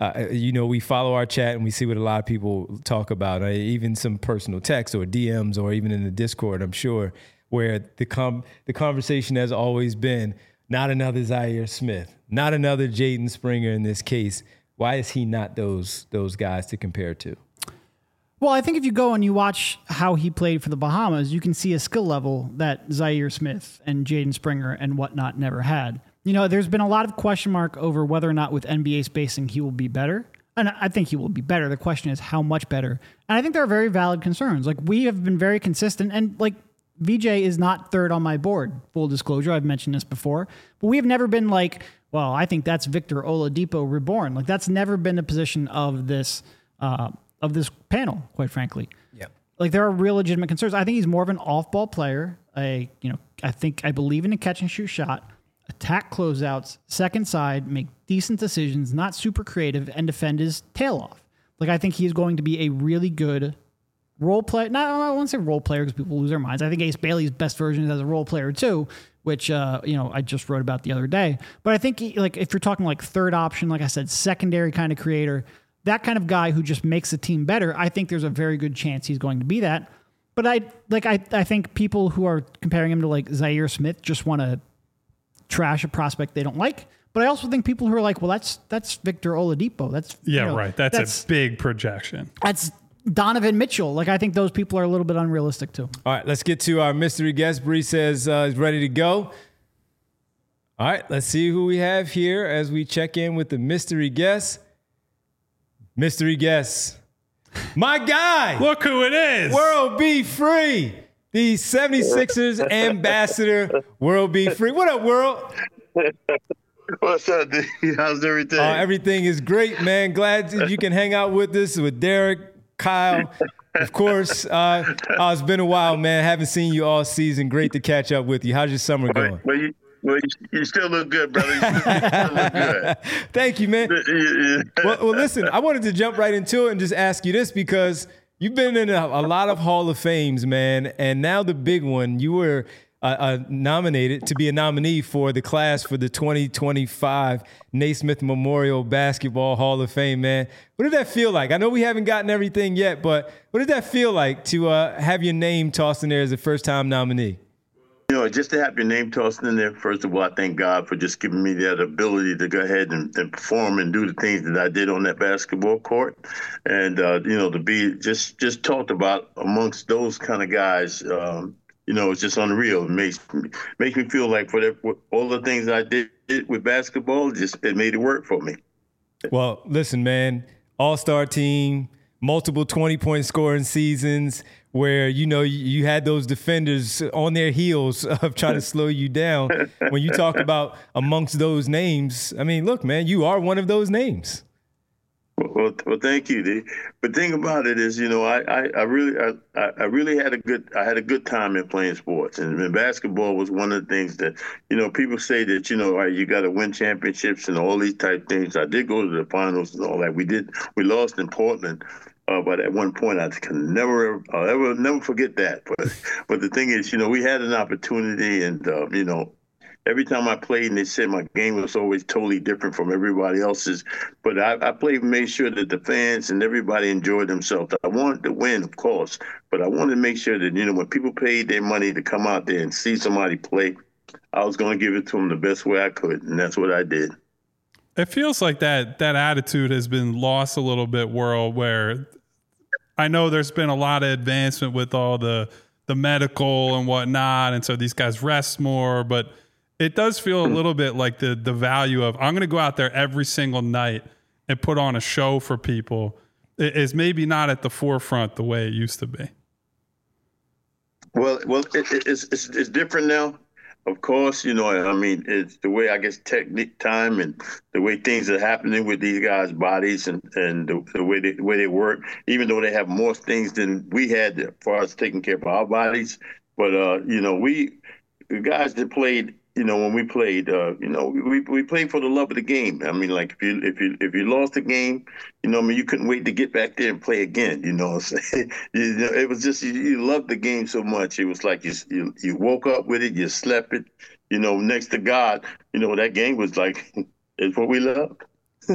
we follow our chat and we see what a lot of people talk about, even some personal texts or DMs or even in the Discord, I'm sure, where the conversation has always been, not another Zaire Smith, not another Jaden Springer in this case. Why is he not those guys to compare to? Well, I think if you go and you watch how he played for the Bahamas, you can see a skill level that Zaire Smith and Jaden Springer and whatnot never had. There's been a lot of question mark over whether or not with NBA spacing he will be better. And I think he will be better. The question is how much better. And I think there are very valid concerns. Like, we have been very consistent, and VJ is not third on my board. Full disclosure, I've mentioned this before. But we have never been like, well, I think that's Victor Oladipo reborn. Like, that's never been the position of this panel, quite frankly. Yeah. Like, there are real legitimate concerns. I think he's more of an off-ball player. I believe in a catch and shoot shot, attack closeouts, second side, make decent decisions, not super creative, and defend his tail off. Like, I think he's going to be a really good role player. I won't say role player because people lose their minds. I think Ace Bailey's best version is as a role player too, which, I just wrote about the other day. But I think if you're talking like third option, like I said, secondary kind of creator, that kind of guy who just makes the team better, I think there's a very good chance he's going to be that. But I think people who are comparing him to like Zaire Smith just want to trash a prospect they don't like. But I also think people who are like, well, that's Victor Oladipo. That's right. That's a big projection. That's Donovan Mitchell. Like, I think those people are a little bit unrealistic too. All right, let's get to our mystery guest. Bree says he's ready to go. All right, let's see who we have here as we check in with the mystery guest. Mystery guest. My guy. Look who it is. World Be Free. The 76ers ambassador, World Be Free. What up, World? What's up, dude? How's everything? Everything is great, man. Glad that you can hang out with us, with Derek, Kyle, Of course. It's been a while, man. Haven't seen you all season. Great to catch up with you. How's your summer going? You still look good, brother. You still look good. Thank you, man. Well, listen, I wanted to jump right into it and just ask you this because you've been in a lot of Hall of Fames, man, and now the big one. You were nominated to be a nominee for the class for the 2025 Naismith Memorial Basketball Hall of Fame, man. What did that feel like? I know we haven't gotten everything yet, but what did that feel like to have your name tossed in there as a first-time nominee? You know, just to have your name tossed in there, first of all, I thank God for just giving me that ability to go ahead and perform and do the things that I did on that basketball court. And, you know, to be just talked about amongst those kind of guys, you know, it's just unreal. It makes me feel like for all the things I did with basketball, it made it work for me. Well, listen, man, all-star team, multiple 20-point scoring seasons where, you know, you had those defenders on their heels of trying to slow you down. When you talk about amongst those names, I mean, look, man, you are one of those names. Well, thank you. The thing about it is, you know, I really had a good time in playing sports, and basketball was one of the things that, you know, people say that, you know, you got to win championships and all these type things. I did go to the finals and all that. We lost in Portland. But at one point, I can never forget that. But the thing is, you know, we had an opportunity, and you know, every time I played, and they said my game was always totally different from everybody else's. But I played and made sure that the fans and everybody enjoyed themselves. I wanted to win, of course, but I wanted to make sure that, you know, when people paid their money to come out there and see somebody play, I was going to give it to them the best way I could, and that's what I did. It feels like that attitude has been lost a little bit, World, where I know there's been a lot of advancement with all the medical and whatnot, and so these guys rest more, but it does feel a little bit like the value of I'm going to go out there every single night and put on a show for people is maybe not at the forefront the way it used to be. Well, it's different now. Of course, you know, I mean, it's the way, I guess, technique, time, and the way things are happening with these guys' bodies and the way they work, even though they have more things than we had as far as taking care of our bodies. But, you know, the guys that played, you know, when we played, you know, we played for the love of the game. I mean, like if you lost the game, you know, I mean, you couldn't wait to get back there and play again. You know, you know, it was just you loved the game so much. It was like you woke up with it, you slept it. You know, next to God, you know, that game was like it's what we loved.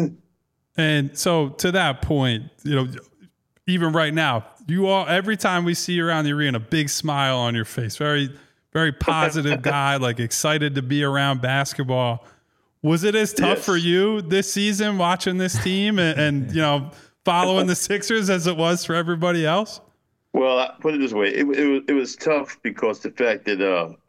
And so to that point, you know, even right now, you all every time we see you around the arena, big smile on your face, very positive guy, like excited to be around basketball. Was it as tough for you this season watching this team and you know, following the Sixers as it was for everybody else? Well, I put it this way. It was tough because the fact that,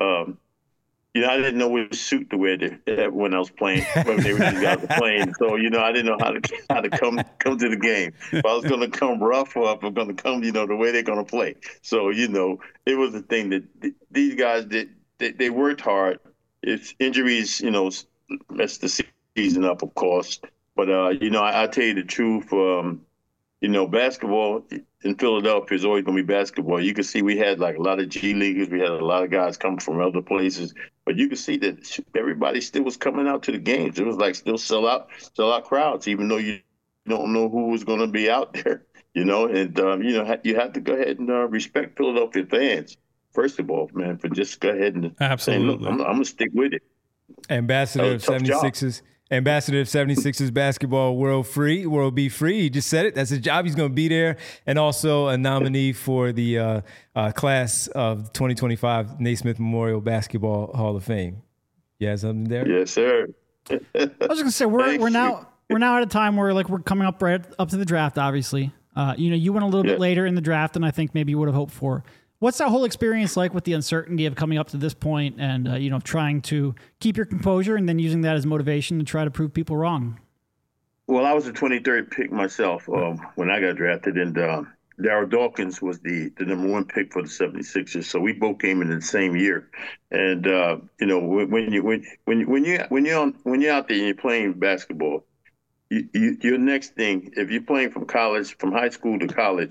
you know, I didn't know which suit to wear when I was playing, when these guys were playing. So, you know, I didn't know how to come to the game. If I was going to come rough or if I'm going to come, you know, the way they're going to play. So, you know, it was the thing that these guys did. They worked hard. It's injuries, you know, messed the season up, of course. But, you know, I tell you the truth, you know, basketball in Philadelphia is always going to be basketball. You can see we had like a lot of G Leaguers. We had a lot of guys coming from other places. But you can see that everybody still was coming out to the games. It was like still sell out crowds, even though you don't know who was going to be out there, you know. And, you know, you have to go ahead and respect Philadelphia fans, first of all, man, for just go ahead and absolutely. Say, look, I'm going to stick with it. Ambassador of 76ers. Ambassador of 76ers basketball, World B. Free. He just said it. That's his job. He's going to be there. And also a nominee for the class of 2025 Naismith Memorial Basketball Hall of Fame. You have something there? Yes, sir. I was going to say, we're now at a time where like we're coming up right up to the draft, obviously. You know, you went a little bit later in the draft than I think maybe you would have hoped for. What's that whole experience like with the uncertainty of coming up to this point and, you know, trying to keep your composure and then using that as motivation to try to prove people wrong? Well, I was the 23rd pick myself when I got drafted, and Darryl Dawkins was the number one pick for the 76ers. So we both came in the same year. And, you know, when you're out there and you're playing basketball, your next thing, if you're playing from high school to college,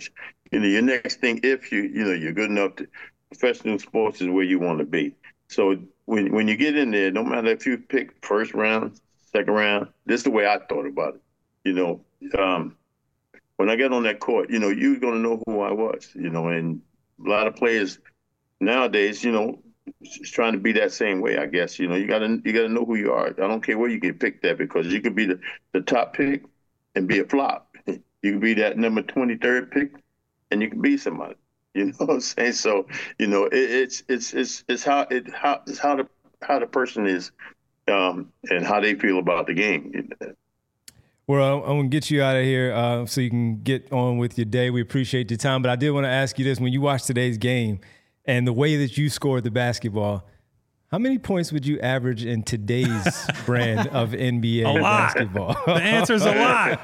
your next thing, if you're good enough to, professional sports is where you want to be. So when you get in there, no matter if you pick first round, second round, this is the way I thought about it. When I got on that court, you're going to know who I was, and a lot of players nowadays, is trying to be that same way, I guess. You got to know who you are. I don't care where you get picked at, because you could be the top pick and be a flop. You could be that number 23rd pick and you can be somebody. You know what I'm saying? So, it's how the person is and how they feel about the game. Well, I'm going to get you out of here so you can get on with your day. We appreciate your time. But I did want to ask you this. When you watched today's game and the way that you scored the basketball, how many points would you average in today's brand of NBA basketball? The answer's a lot.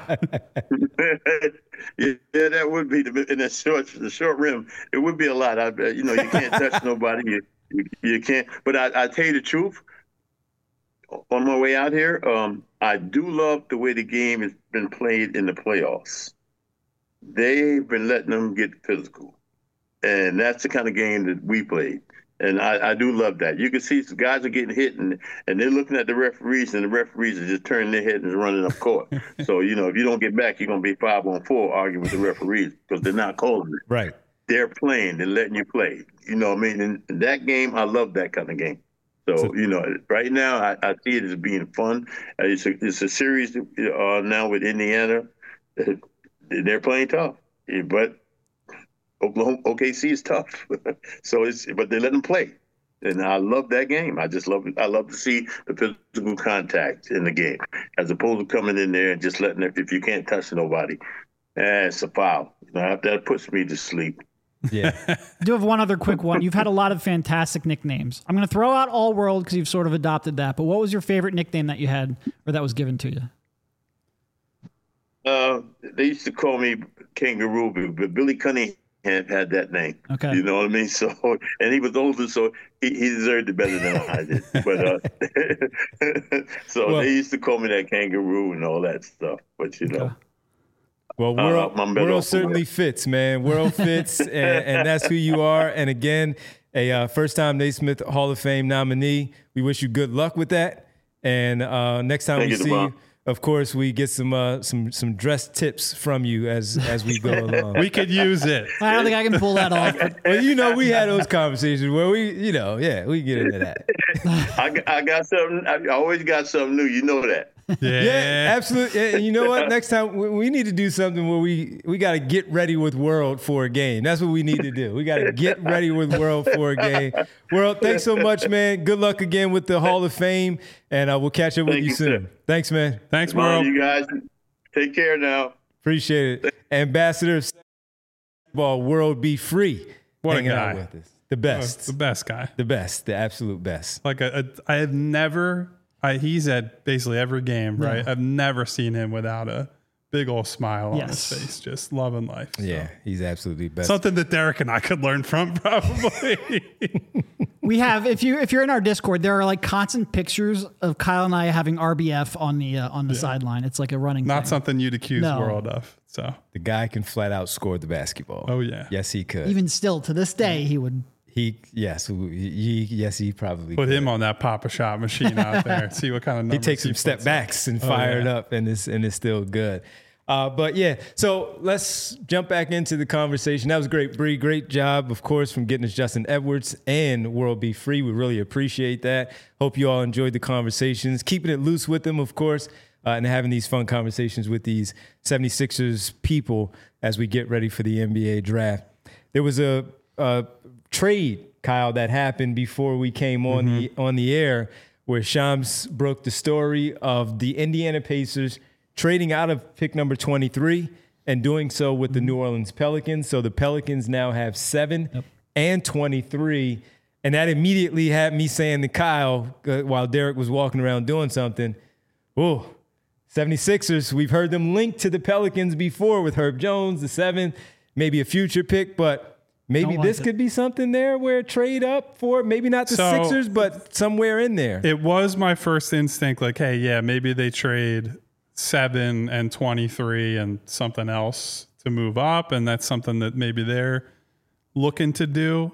Yeah, that would be in the short rim. It would be a lot. I bet. You can't touch nobody. You can't. But I tell you the truth. On my way out here, I do love the way the game has been played in the playoffs. They've been letting them get physical, and that's the kind of game that we played. And I do love that. You can see some guys are getting hit, and they're looking at the referees, and the referees are just turning their head and running up court. So, if you don't get back, you're going to be 5-on-4 arguing with the referees because they're not calling it. Right. They're playing. They're letting you play. You know what I mean? And that game, I love that kind of game. So, right now, I see it as being fun. It's a series now with Indiana. They're playing tough. But OKC is tough, but they let them play, and I love that game. I love to see the physical contact in the game, as opposed to coming in there and just letting it. If you can't touch nobody, it's a foul. That puts me to sleep. Yeah. I do have one other quick one. You've had a lot of fantastic nicknames. I'm going to throw out All World because you've sort of adopted that. But what was your favorite nickname that you had, or that was given to you? They used to call me Kangaroo, but Billy Cunningham had that name. Okay. You know what I mean? So, and he was older, so he deserved it better than I did. But they used to call me that Kangaroo and all that stuff. But Okay. Well, World certainly fits, man. World fits, and that's who you are. And again, a first-time Naismith Hall of Fame nominee. We wish you good luck with that. And next time we see you, of course, we get some dress tips from you as we go along. We could use it. I don't think I can pull that off. Well, we had those conversations where we get into that. I got something. I always got something new. You know that. Yeah, absolutely. And you know what? Next time we need to do something where we got to get ready with World for a game. That's what we need to do. We got to get ready with World for a game. World, thanks so much, man. Good luck again with the Hall of Fame, and we'll catch up with you soon. Sir. Thanks, man. Thanks, World. You guys take care now. Appreciate it. Ambassador of Basketball, World Be Free. What a guy. With us. The best. The best guy. The best. The absolute best. Like I have never. He's at basically every game, right? I've never seen him without a big old smile on his face, just loving life. So. Yeah, he's absolutely best. Something that Derek and I could learn from, probably. We have, if you're in our Discord, there are like constant pictures of Kyle and I having RBF on the sideline. It's like a running Not thing. Something you'd accuse World of. So the guy can flat out score the basketball. Oh yeah, yes he could. Even still, to this day, he would. He probably put him on that Papa Shot machine out there. See what kind of numbers he takes some step backs and fire it up, and it's still good. But yeah, so let's jump back into the conversation. That was great, Bree. Great job, of course, from getting us Justin Edwards and World Be Free. We really appreciate that. Hope you all enjoyed the conversations. Keeping it loose with them, of course, and having these fun conversations with these 76ers people as we get ready for the NBA draft. There was a trade, Kyle, that happened before we came on the air, where Shams broke the story of the Indiana Pacers trading out of pick number 23 and doing so with the New Orleans Pelicans. So the Pelicans now have 7 and 23. And that immediately had me saying to Kyle, while Derek was walking around doing something, oh, 76ers, we've heard them linked to the Pelicans before with Herb Jones, the 7th, maybe a future pick, but maybe this could be something there where trade up for maybe not the Sixers, but somewhere in there. It was my first instinct, like, hey, yeah, maybe they trade 7 and 23 and something else to move up, and that's something that maybe they're looking to do.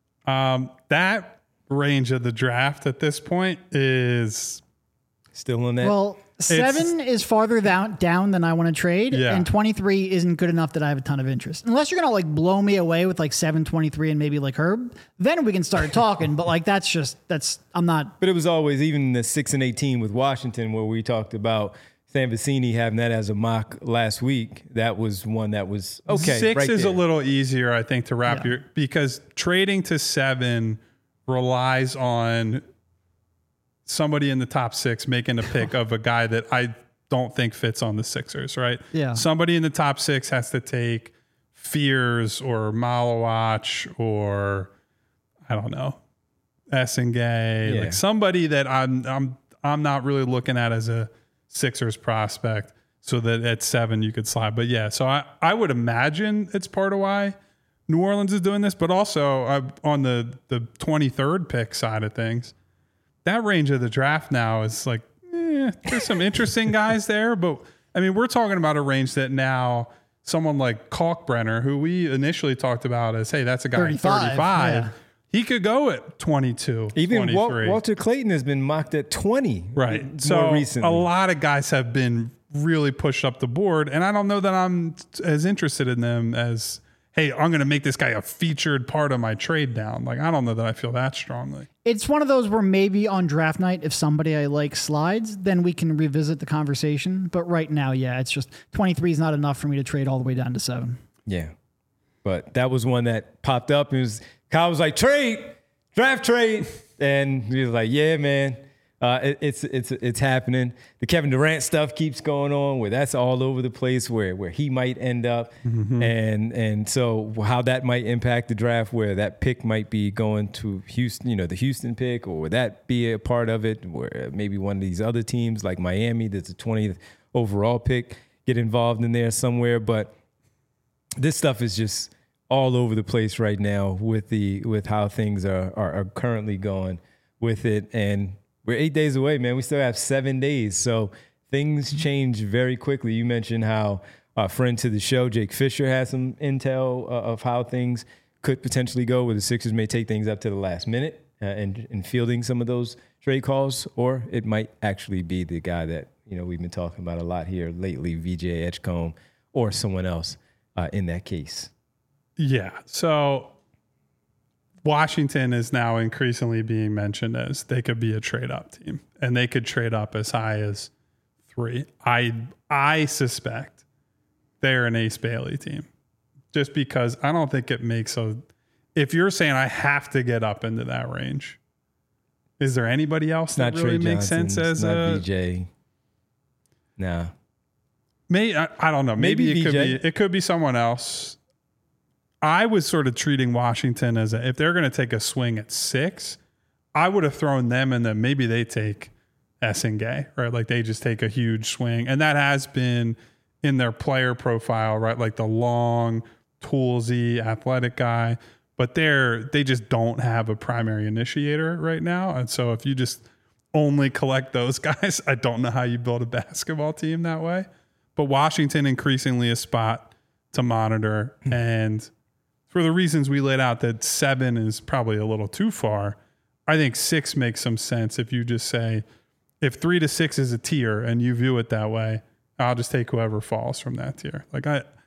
That range of the draft at this point is Still on that. Well, 7 is farther down than I want to trade, Yeah. and 23 isn't good enough that I have a ton of interest. Unless you're gonna like blow me away with like 7, 23, and maybe like Herb, then we can start talking. But like that's I'm not. But it was always even the 6 and 18 with Washington, where we talked about Sam Vecini having that as a mock last week. That was one that was okay. 6 right is there. a little easier, I think, to wrap Yeah. because trading to 7 relies on somebody in the top 6 making a pick of a guy that I don't think fits on the Sixers, right? Yeah. Somebody in the top 6 has to take Fears or Malawach or I don't know, Essengay, Yeah. like somebody that I'm not really looking at as a Sixers prospect, so that at 7 you could slide. But yeah, so I would imagine it's part of why New Orleans is doing this, but also on the 23rd pick side of things, that range of the draft now is like, there's some interesting guys there. But I mean, we're talking about a range that now someone like Kalkbrenner, who we initially talked about as, hey, that's a guy 35, at 35. yeah. He could go at 22, Even 23. Walter Clayton has been mocked at 20. Right. More So recently. a lot of guys have been really pushed up the board, and I don't know that I'm as interested in them as, hey, I'm going to make this guy a featured part of my trade down. Like, I don't know that I feel that strongly. It's one of those where maybe on draft night, if somebody I like slides, then we can revisit the conversation. But right now, yeah, it's just 23 is not enough for me to trade all the way down to 7. Yeah. But that was one that popped up. Kyle was like, draft trade. And he was like, yeah, man, it's happening. The Kevin Durant stuff keeps going on where that's all over the place where he might end up. And so how that might impact the draft, where that pick might be going to Houston, the Houston pick, or would that be a part of it, where maybe one of these other teams like Miami, that's a 20th overall pick, get involved in there somewhere. But this stuff is just all over the place right now with how things are currently going with it. And we're 8 days away, man. We still have 7 days. So things change very quickly. You mentioned how a friend to the show, Jake Fisher, has some intel of how things could potentially go, where the Sixers may take things up to the last minute and fielding some of those trade calls, or it might actually be the guy that, we've been talking about a lot here lately, VJ Edgecombe, or someone else in that case. Yeah. So Washington is now increasingly being mentioned as they could be a trade up team, and they could trade up as high as 3. I suspect they're an Ace Bailey team, just because I don't think it makes if you're saying I have to get up into that range, is there anybody else that really makes sense as not VJ? Nah. Maybe I don't know. Maybe VJ. it could be someone else. I was sort of treating Washington as if they're going to take a swing at 6, I would have thrown them in maybe they take Essengay, right? Like they just take a huge swing. And that has been in their player profile, right? Like the long, toolsy, athletic guy. But they just don't have a primary initiator right now. And so if you just only collect those guys, I don't know how you build a basketball team that way. But Washington increasingly a spot to monitor. And for the reasons we laid out, that 7 is probably a little too far, I think 6 makes some sense. If you just say, if 3 to 6 is a tier and you view it that way, I'll just take whoever falls from that tier. Like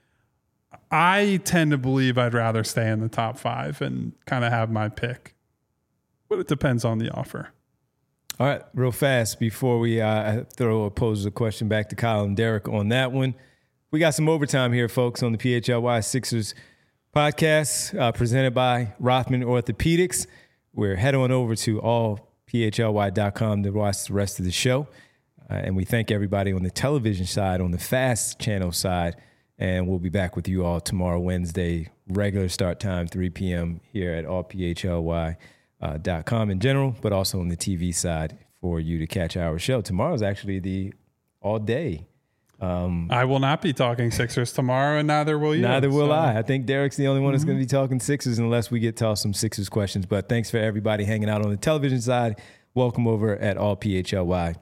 I tend to believe I'd rather stay in the top 5 and kind of have my pick, but it depends on the offer. All right, real fast before we pose a question back to Kyle and Derek on that one. We got some overtime here, folks, on the PHLY Sixers podcast presented by Rothman Orthopedics. We're head on over to allphly.com to watch the rest of the show. And we thank everybody on the television side, on the FAST channel side. And we'll be back with you all tomorrow, Wednesday, regular start time, 3 p.m. here at allphly.com in general, but also on the TV side for you to catch our show. Tomorrow's actually the all day. I will not be talking Sixers tomorrow, and neither will you. Neither will I. I think Derek's the only one that's going to be talking Sixers unless we get to some Sixers questions. But thanks for everybody hanging out on the television side. Welcome over at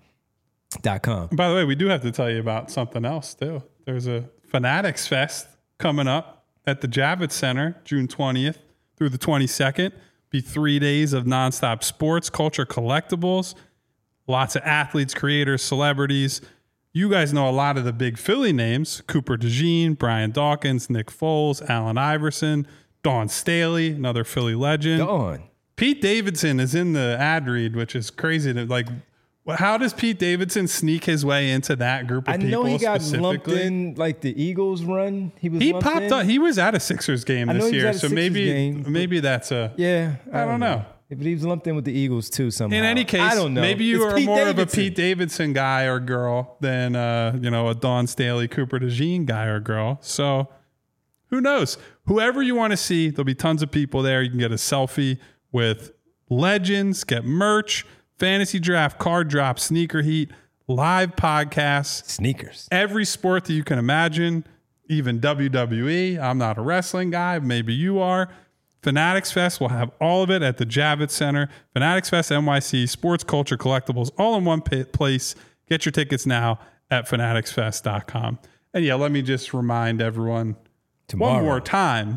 allphly.com. By the way, we do have to tell you about something else, too. There's a Fanatics Fest coming up at the Javits Center, June 20th through the 22nd. Be 3 days of nonstop sports, culture, collectibles, lots of athletes, creators, celebrities. You guys know a lot of the big Philly names: Cooper DeJean, Brian Dawkins, Nick Foles, Allen Iverson, Dawn Staley, another Philly legend. Dawn. Pete Davidson is in the ad read, which is crazy. How does Pete Davidson sneak his way into that group of people? I know he got lumped in like the Eagles run. He popped up. He was at a Sixers game this year, so maybe that's a. Yeah, I don't know. But he was lumped in with the Eagles too somehow. In any case, I don't know. Maybe you It's are Pete more Davidson. of a Pete Davidson guy or girl than a Dawn Staley, Cooper DeJean guy or girl. So who knows? Whoever you want to see, there'll be tons of people there. You can get a selfie with legends, get merch, fantasy draft, card drop, sneaker heat, live podcasts, Sneakers. every sport that you can imagine, even WWE. I'm not a wrestling guy. Maybe you are. Fanatics Fest will have all of it at the Javits Center. Fanatics Fest NYC, sports, culture, collectibles, all in one place. Get your tickets now at fanaticsfest.com. And yeah, let me just remind everyone Tomorrow. one more time,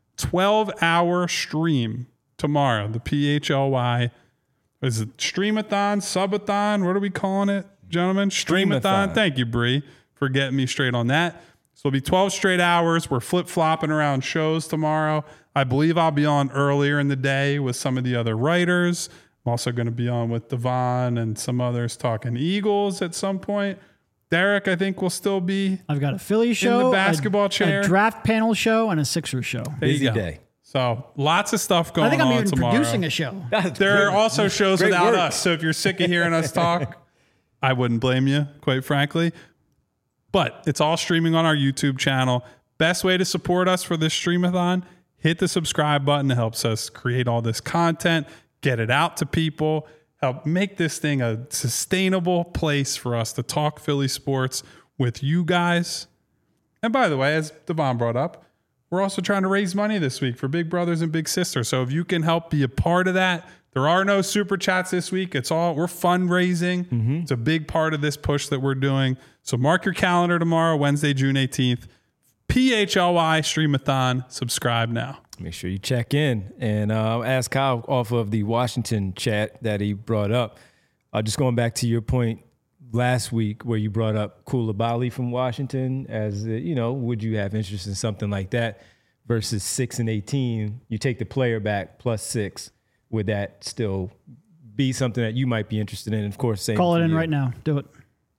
12-hour stream tomorrow. The PHLY, is it Streamathon, Subathon? What are we calling it, gentlemen? Streamathon. Thank you, Bree, for getting me straight on that. So it'll be 12 straight hours. We're flip-flopping around shows tomorrow. I believe I'll be on earlier in the day with some of the other writers. I'm also going to be on with Devon and some others talking Eagles at some point. Derek, I think, will still be. I've got a Philly show, the basketball chair. a draft panel show, and a Sixers show. There you Busy go. day. So lots of stuff going on I think I'm even tomorrow. producing a show. There are also shows Great without work. us. So if you're sick of hearing us talk, I wouldn't blame you, quite frankly. But it's all streaming on our YouTube channel. Best way to support us for this Streamathon, hit the subscribe button. It helps us create all this content, get it out to people, help make this thing a sustainable place for us to talk Philly sports with you guys. And by the way, as Devon brought up, we're also trying to raise money this week for Big Brothers and Big Sisters. So if you can help be a part of that, there are no super chats this week. We're fundraising. It's a big part of this push that we're doing. So mark your calendar tomorrow, Wednesday, June 18th. PHLY Streamathon. Subscribe now. Make sure you check in and ask Kyle off of the Washington chat that he brought up. Just going back to your point last week where you brought up Koulibaly from Washington as, would you have interest in something like that versus 6 and 18? You take the player back plus 6. Would that still be something that you might be interested in? Of course, same. Call it for in you. right now. Do it.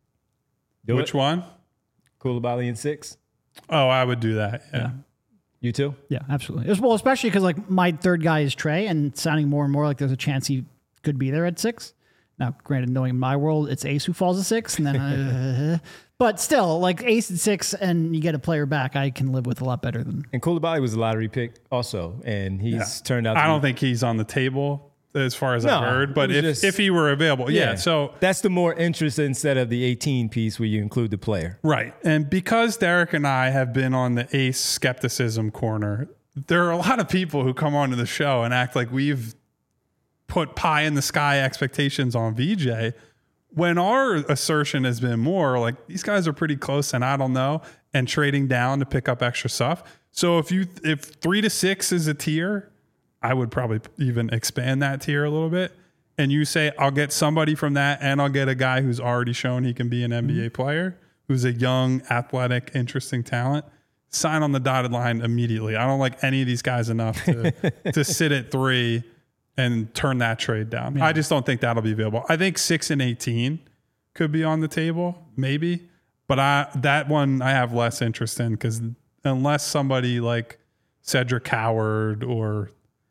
Which one? Koulibaly in 6? Oh, I would do that. Yeah. You too? Yeah, absolutely. Well, especially because like my third guy is Trey, and it's sounding more and more like there's a chance he could be there at 6. Now, granted, knowing in my world, it's Ace who falls at 6, and then, but still, like Ace at 6, and you get a player back, I can live with a lot better than. And Koulibaly was a lottery pick also, and he's turned out. I don't think he's on the table as far as No, I've heard, but it was if he were available, so that's the more interest instead of the 18 piece where you include the player. right. And because Derek and I have been on the Ace skepticism corner, there are a lot of people who come onto the show and act like we've put pie in the sky expectations on VJ, when our assertion has been more like these guys are pretty close and I don't know, and trading down to pick up extra stuff. So if 3 to 6 is a tier, I would probably even expand that tier a little bit. And you say, I'll get somebody from that and I'll get a guy who's already shown he can be an NBA player, who's a young, athletic, interesting talent. Sign on the dotted line immediately. I don't like any of these guys enough to sit at 3 and turn that trade down. I just don't think that'll be available. I think 6 and 18 could be on the table, maybe. But that one I have less interest in because unless somebody like Cedric Howard or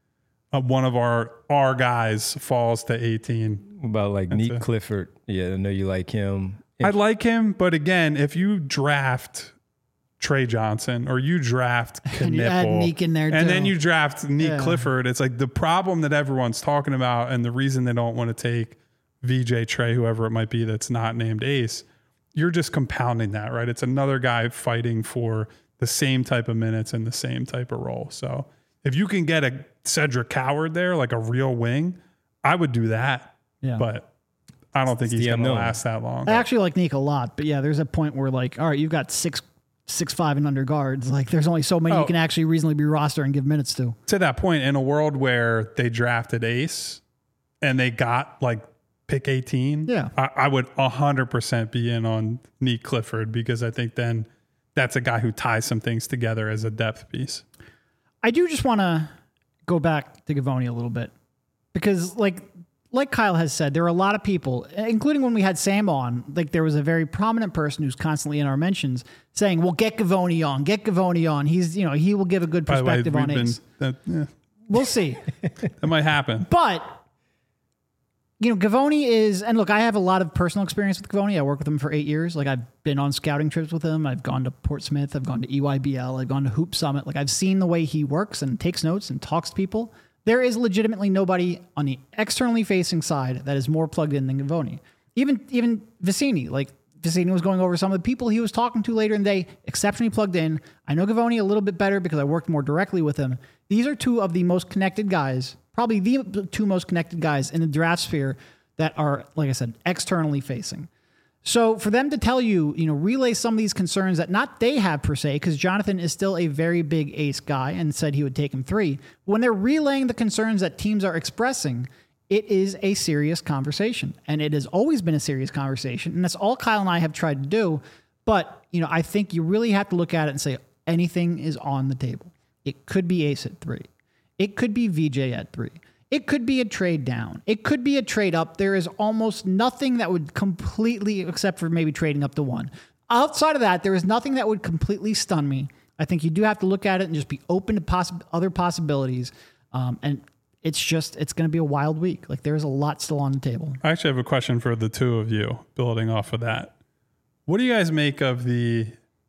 one of our guys falls to 18. What about like Neat Clifford? Yeah, I know you like him. I like him, but again, if you draft Trey Johnson or you draft And you add Knipple, Neek in there, and too. then you draft Neek Clifford, it's like the problem that everyone's talking about and the reason they don't want to take VJ, Trey, whoever it might be that's not named Ace, you're just compounding that, right? It's another guy fighting for the same type of minutes and the same type of role. So if you can get a Cedric Howard there, like a real wing, I would do that. Yeah. But I don't think he's going to last that long. I actually like Neek a lot, but yeah, there's a point where like, all right, you've got 6 6'5" and under guards. Like there's only so many you can actually reasonably be roster and give minutes to. To that point, in a world where they drafted Ace and they got like pick 18, yeah, I would 100% be in on Neek Clifford, because I think then that's a guy who ties some things together as a depth piece. I do just want to go back to Gavoni a little bit, because like Kyle has said, there are a lot of people, including when we had Sam on, like there was a very prominent person who's constantly in our mentions saying, well, get Gavoni on. He's, he will give a good perspective on Ace. We'll see. That might happen. But, Gavoni is, and look, I have a lot of personal experience with Gavoni. I worked with him for 8 years. Like I've been on scouting trips with him. I've gone to Portsmouth. I've gone to EYBL. I've gone to Hoop Summit. Like I've seen the way he works and takes notes and talks to people. There is legitimately nobody on the externally facing side that is more plugged in than Gavoni. Even Vicini. Like Vicini was going over some of the people he was talking to later in the day, exceptionally plugged in. I know Gavoni a little bit better because I worked more directly with him. These are two of the most connected guys, probably the two most connected guys in the draft sphere that are, like I said, externally facing. So for them to tell you, relay some of these concerns that not they have per se, because Jonathan is still a very big Ace guy and said he would take him 3. When they're relaying the concerns that teams are expressing, it is a serious conversation. And it has always been a serious conversation. And that's all Kyle and I have tried to do. But, I think you really have to look at it and say anything is on the table. It could be Ace at 3. It could be VJ at 3. It could be a trade down. It could be a trade up. There is almost nothing that would completely, except for maybe trading up to 1. Outside of that, there is nothing that would completely stun me. I think you do have to look at it and just be open to other possibilities. And it's going to be a wild week. Like there's a lot still on the table. I actually have a question for the two of you, building off of that. What do you guys make of the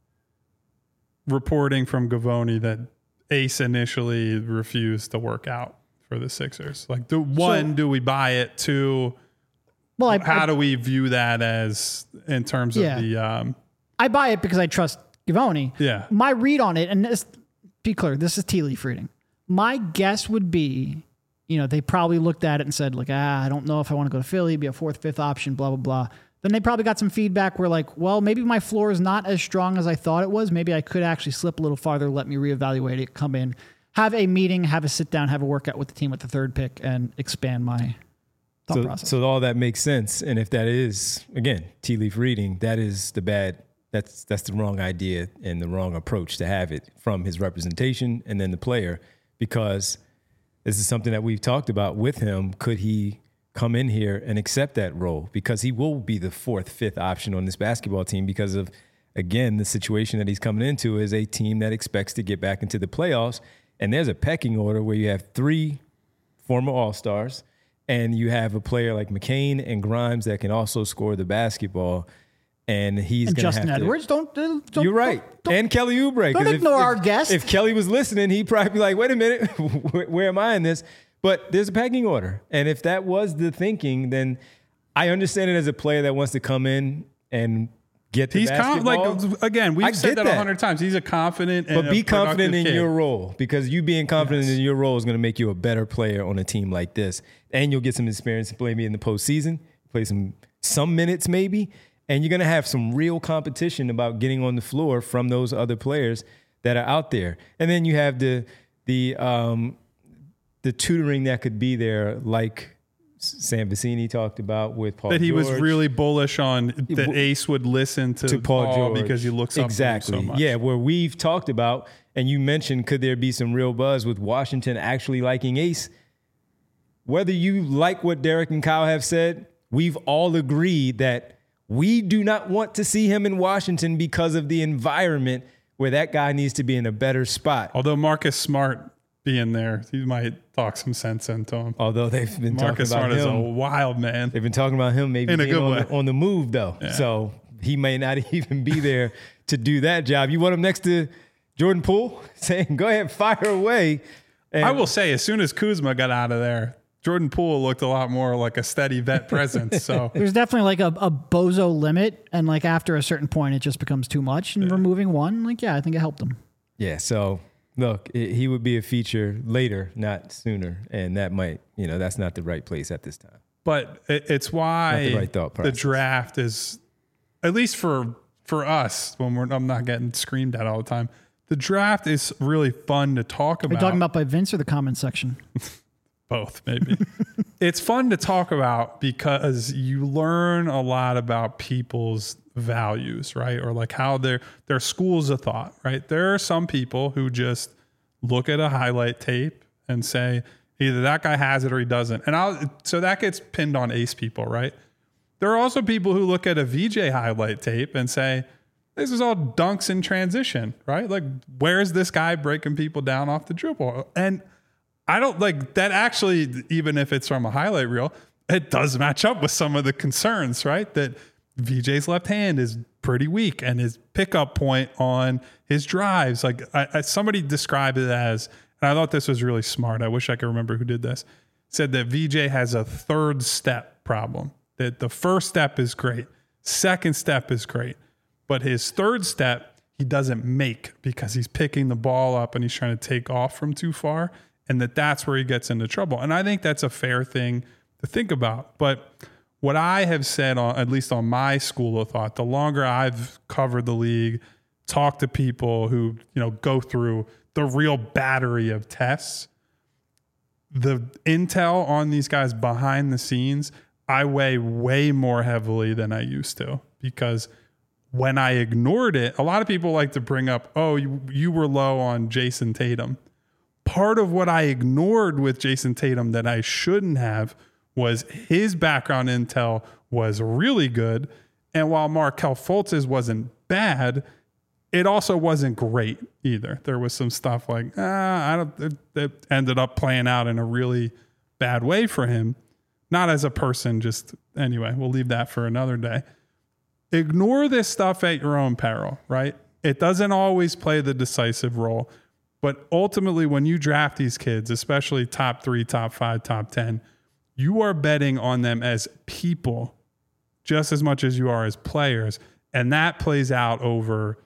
reporting from Gavoni that Ace initially refused to work out for the Sixers? Like, do we buy it? 2, how do we view that as in terms of the? I buy it because I trust Gavoni. Yeah. My read on it, and be clear, this is tea leaf reading. My guess would be, they probably looked at it and said, like, I don't know if I want to go to Philly, be a 4th, 5th option, blah, blah, blah. Then they probably got some feedback where like, well, maybe my floor is not as strong as I thought it was. Maybe I could actually slip a little farther, let me reevaluate it, come in, have a meeting, have a sit down, have a workout with the team with the 3rd pick, and expand my thought process. So all that makes sense. And if that is, again, tea leaf reading, that is that's the wrong idea and the wrong approach to have it from his representation and then the player, because this is something that we've talked about with him. Could he come in here and accept that role? Because he will be the 4th, 5th option on this basketball team because of, again, the situation that he's coming into is a team that expects to get back into the playoffs. And there's a pecking order where you have 3 former All-Stars and you have a player like McCain and Grimes that can also score the basketball. And he's going to have Justin Edwards, don't. You're right. And Kelly Oubre. Don't ignore our guest. If Kelly was listening, he'd probably be like, wait a minute, where am I in this? But there's a pecking order. And if that was the thinking, then I understand it as a player that wants to come in and get the basketball. Again, we've said that 100 times. He's a confident and be confident in kid. your role, because you being confident in your role is going to make you a better player on a team like this. And you'll get some experience to play me in the postseason, play some minutes maybe, and you're going to have some real competition about getting on the floor from those other players that are out there. And then you have the tutoring that could be there, like Sam Vicini talked about with Paul George. That he was really bullish on that Ace would listen to Paul George because he looks up to him so much. Yeah, where we've talked about, and you mentioned, could there be some real buzz with Washington actually liking Ace? Whether you like what Derek and Kyle have said, we've all agreed that we do not want to see him in Washington because of the environment where that guy needs to be in a better spot. Although Marcus Smart being there, he might talk some sense into him. Although they've been Marcus talking about Smart him. is a wild man. They've been talking about him maybe in a good way. on the move, though. Yeah. So he may not even be there to do that job. You want him next to Jordan Poole saying, go ahead, fire away. And I will say, as soon as Kuzma got out of there, Jordan Poole looked a lot more like a steady vet presence. So there's definitely like a bozo limit. And like after a certain point, it just becomes too much. And removing one, I think it helped him. Yeah. So look, he would be a feature later, not sooner. And that might, that's not the right place at this time. But it's why not the right thought process. The draft is, at least for for us, when I'm not getting screamed at all the time, the draft is really fun to talk Are about. you talking about by Vince or the comment section? Both, maybe. It's fun to talk about because you learn a lot about people's values, right? Or like how their schools of thought, right? There are some people who just look at a highlight tape and say either that guy has it or he doesn't. And so that gets pinned on ace people, right? There are also people who look at a VJ highlight tape and say, this is all dunks in transition, right? Like, where's this guy breaking people down off the dribble? And I don't like that actually, even if it's from a highlight reel, it does match up with some of the concerns, right? That VJ's left hand is pretty weak and his pickup point on his drives. Like somebody described it as, and I thought this was really smart. I wish I could remember who did this. Said that VJ has a third step problem, that the first step is great. Second step is great. But his third step, he doesn't make because he's picking the ball up and he's trying to take off from too far. And that's where he gets into trouble. And I think that's a fair thing to think about. But what I have said, at least on my school of thought, the longer I've covered the league, talked to people who go through the real battery of tests, the intel on these guys behind the scenes, I weigh way more heavily than I used to. Because when I ignored it, a lot of people like to bring up, oh, you were low on Jason Tatum. Part of what I ignored with Jason Tatum that I shouldn't have was his background intel was really good. And while Markelle Fultz's wasn't bad, it also wasn't great either. There was some stuff like, it ended up playing out in a really bad way for him. Not as a person, just anyway, we'll leave that for another day. Ignore this stuff at your own peril, right? It doesn't always play the decisive role. But ultimately, when you draft these kids, especially top 3, top 5, top 10, you are betting on them as people just as much as you are as players. And that plays out over,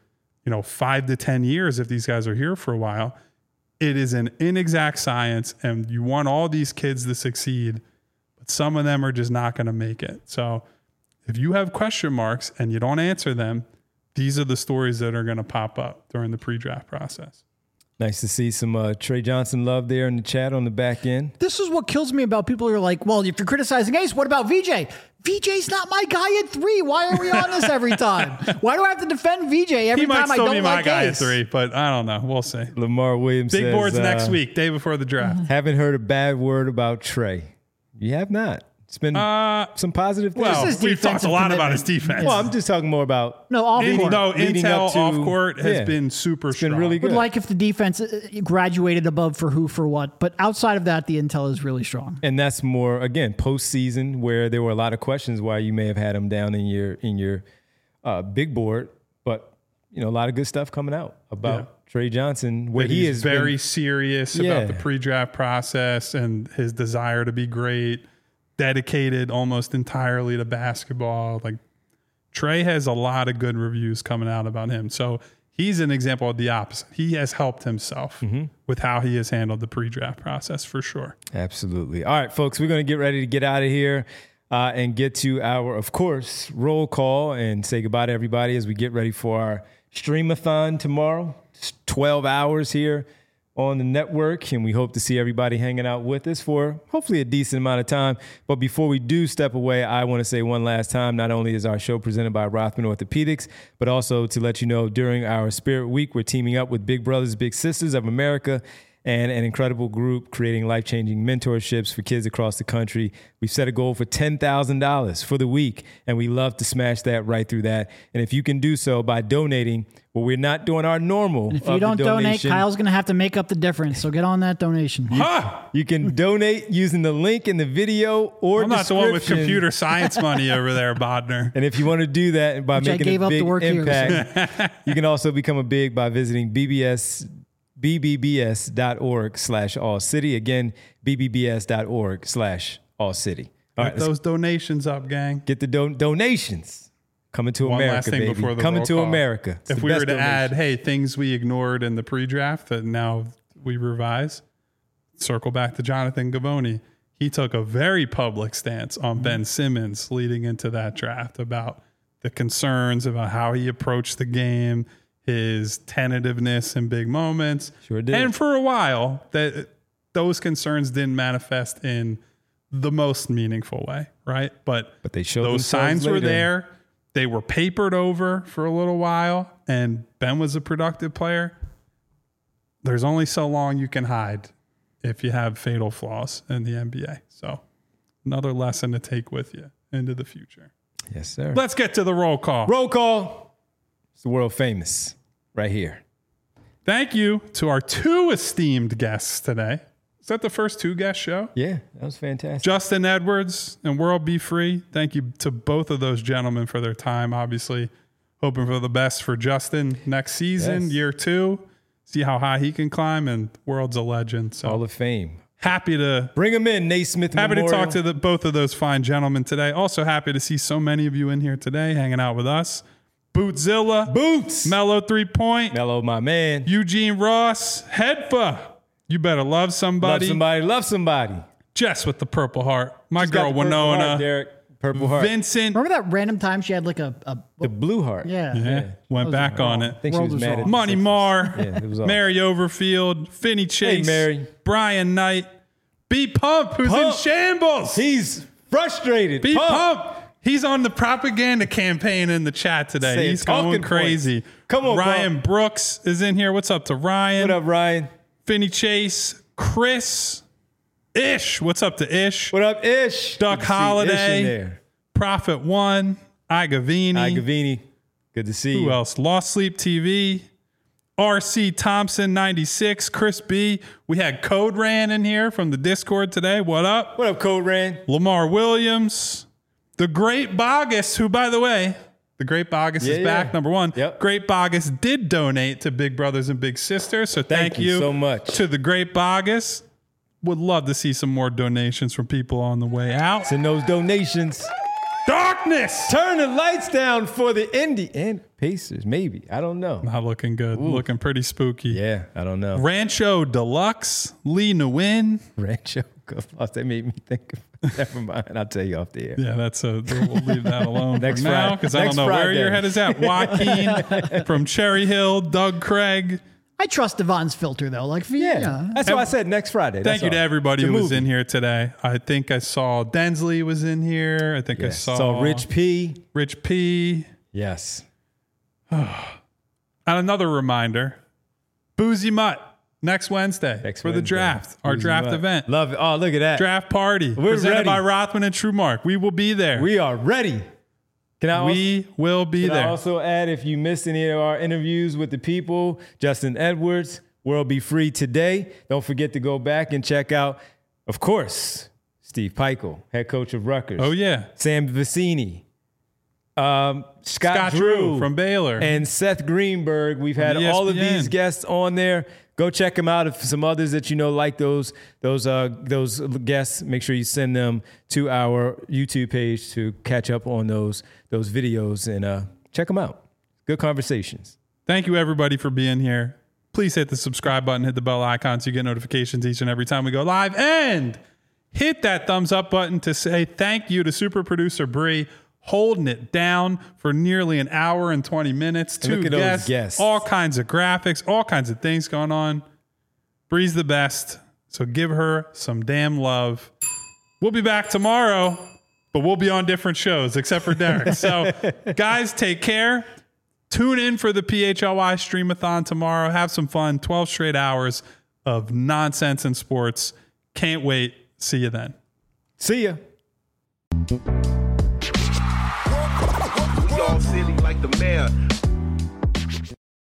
5 to 10 years if these guys are here for a while. It is an inexact science, and you want all these kids to succeed, but some of them are just not going to make it. So if you have question marks and you don't answer them, these are the stories that are going to pop up during the pre-draft process. Nice to see some Trey Johnson love there in the chat on the back end. This is what kills me about people who are like, well, if you're criticizing Ace, what about VJ? VJ's not my guy at 3. Why are we on this every time? Why do I have to defend VJ every time I don't like Ace? He might still be my guy at 3, but I don't know. We'll see. Lamar Williams Big says, boards next week, day before the draft. Haven't heard a bad word about Trey. You have not. It's been some positive things. Well, we've talked a lot about his defense. Well, I'm just talking more about intel off court has been super strong. Been really good. Would like if the defense graduated above for who for what, but outside of that, the intel is really strong. And that's more again postseason where there were a lot of questions why you may have had him down in your big board, but a lot of good stuff coming out about Trey Johnson, where he is very serious about the pre-draft process and his desire to be great. Dedicated almost entirely to basketball. Like Trey has a lot of good reviews coming out about him. So he's an example of the opposite. He has helped himself with how he has handled the pre-draft process for sure. Absolutely. All right, folks, we're going to get ready to get out of here and get to our, of course, roll call and say goodbye to everybody as we get ready for our streamathon tomorrow. It's 12 hours here on the network, and we hope to see everybody hanging out with us for hopefully a decent amount of time. But before we do step away, I want to say one last time, not only is our show presented by Rothman Orthopedics, but also to let you know during our Spirit Week, we're teaming up with Big Brothers Big Sisters of America and an incredible group creating life-changing mentorships for kids across the country. We've set a goal for $10,000 for the week, and we love to smash that right through that. And if you can do so by donating, well, we're not doing our normal. And if you don't donate, Kyle's going to have to make up the difference. So get on that donation. You can donate using the link in the video or I'm not the one with computer science money over there, Bodner. And if you want to do that by making a big impact, you can also become a big by visiting bbbs.org/allcity. Again, bbbs.org/allcity. All right, get those donations up, gang. Get the donations. Coming to America, last thing baby. Before the Coming to call. America. It's if we were to add, things we ignored in the pre-draft that now we revise, circle back to Jonathan Givony. He took a very public stance on Ben Simmons leading into that draft about the concerns about how he approached the game, his tentativeness in big moments. Sure did. And for a while, those concerns didn't manifest in the most meaningful way, right? But they showed those themselves signs were later. there. They were papered over for a little while, and Ben was a productive player. There's only so long you can hide if you have fatal flaws in the NBA. So another lesson to take with you into the future. Yes, sir. Let's get to the roll call. Roll call. It's the world famous right here. Thank you to our 2 esteemed guests today. Is that the first 2 guest show? Yeah, that was fantastic. Justin Edwards and World Be Free. Thank you to both of those gentlemen for their time. Obviously, hoping for the best for Justin next season, Yes. year 2. See how high he can climb, and World's a legend. So Hall of Fame. happy to Bring him in, Naismith Happy Memorial. to talk to both of those fine gentlemen today. Also happy to see so many of you in here today hanging out with us. Bootzilla, Boots. Mellow 3 Point, Mello, my man. Eugene Ross, Hedfa. You better love somebody. Love somebody. Jess with the Purple Heart. My She's got girl the purple heart, Winona. Derek. Purple heart. Vincent. Remember that random time she had like a The blue heart. yeah. Yeah, went back on I it. think she World was was mad wrong. at the Money Sixers. Marr, Yeah, it was off. Mary Overfield, Finney Chase, Mary. Brian Knight, B Pump, who's in Pump. shambles. He's frustrated. B Pump. Pump. He's on the propaganda campaign in the chat today. Saying He's going talking crazy. points. Come on, Ryan Pump. Brooks is in here. What's up to Ryan? What up, Ryan? Finney Chase, Chris, Ish. What's up to Ish? What up, Ish? Duck Good to see Holiday. Ish in there. Prophet One, Igavini. Gavini. Good to see Who you. else? Lost Sleep TV. RC Thompson 96, Chris B. We had Code Ran in here from the Discord today. What up? What up, Code Ran? Lamar Williams, the Great Bogus, who, by the way, the Great Bogus is Yeah, back, yeah. number 1. Yep. Great Bogus did donate to Big Brothers and Big Sisters, so thank you so much. to the Great Bogus. Would love to see some more donations from people on the way out. Send those donations. Darkness! Turn the lights down for the Indy and Pacers, maybe. I don't know. Not looking good. Looking pretty spooky. Yeah, I don't know. Rancho Deluxe, Lee Nguyen. Rancho. That made me think of. Never mind. I'll tell you off the air. Yeah, we'll leave that alone Next for now Friday. because I don't Next know where Friday. your head is at. Joaquin from Cherry Hill, Doug Craig. I trust Devon's filter though. Like, Yeah, that's why I said next Friday. Thank That's you to all. everybody It's a who was movie. in here today. I think I saw Densley was in here. I think I Yes. saw Rich P. Rich P. Yes. And another reminder, Boozy Mutt next Wednesday Next for the Wednesday. draft, our Boozy draft Mutt. event. Love it. Oh, look at that. Draft party We're presented ready. by Rothman and Trumark. We will be there. We are ready. Can I also, We will be can I there. also add, if you missed any of our interviews with the people, Justin Edwards, World Be Free today. Don't forget to go back and check out, of course, Steve Peichel, head coach of Rutgers. Oh, yeah. Sam Vicini. Scott Scott Drew Drew from Baylor. and Seth Greenberg. We've had ESPN. all of these guests on there. Go check them out. If some others that you know like those guests, make sure you send them to our YouTube page to catch up on those videos and check them out. Good conversations. Thank you, everybody, for being here. Please hit the subscribe button, hit the bell icon so you get notifications each and every time we go live. And hit that thumbs up button to say thank you to super producer Bree, holding it down for nearly an hour and 20 minutes. And look Two at those guests. all kinds of graphics, all kinds of things going on. Bree's the best, so give her some damn love. We'll be back tomorrow, but we'll be on different shows except for Derek. So, guys, take care. Tune in for the PHLY Streamathon tomorrow. Have some fun. 12 straight hours of nonsense in sports. Can't wait. See you then. See ya. We all silly like the mayor.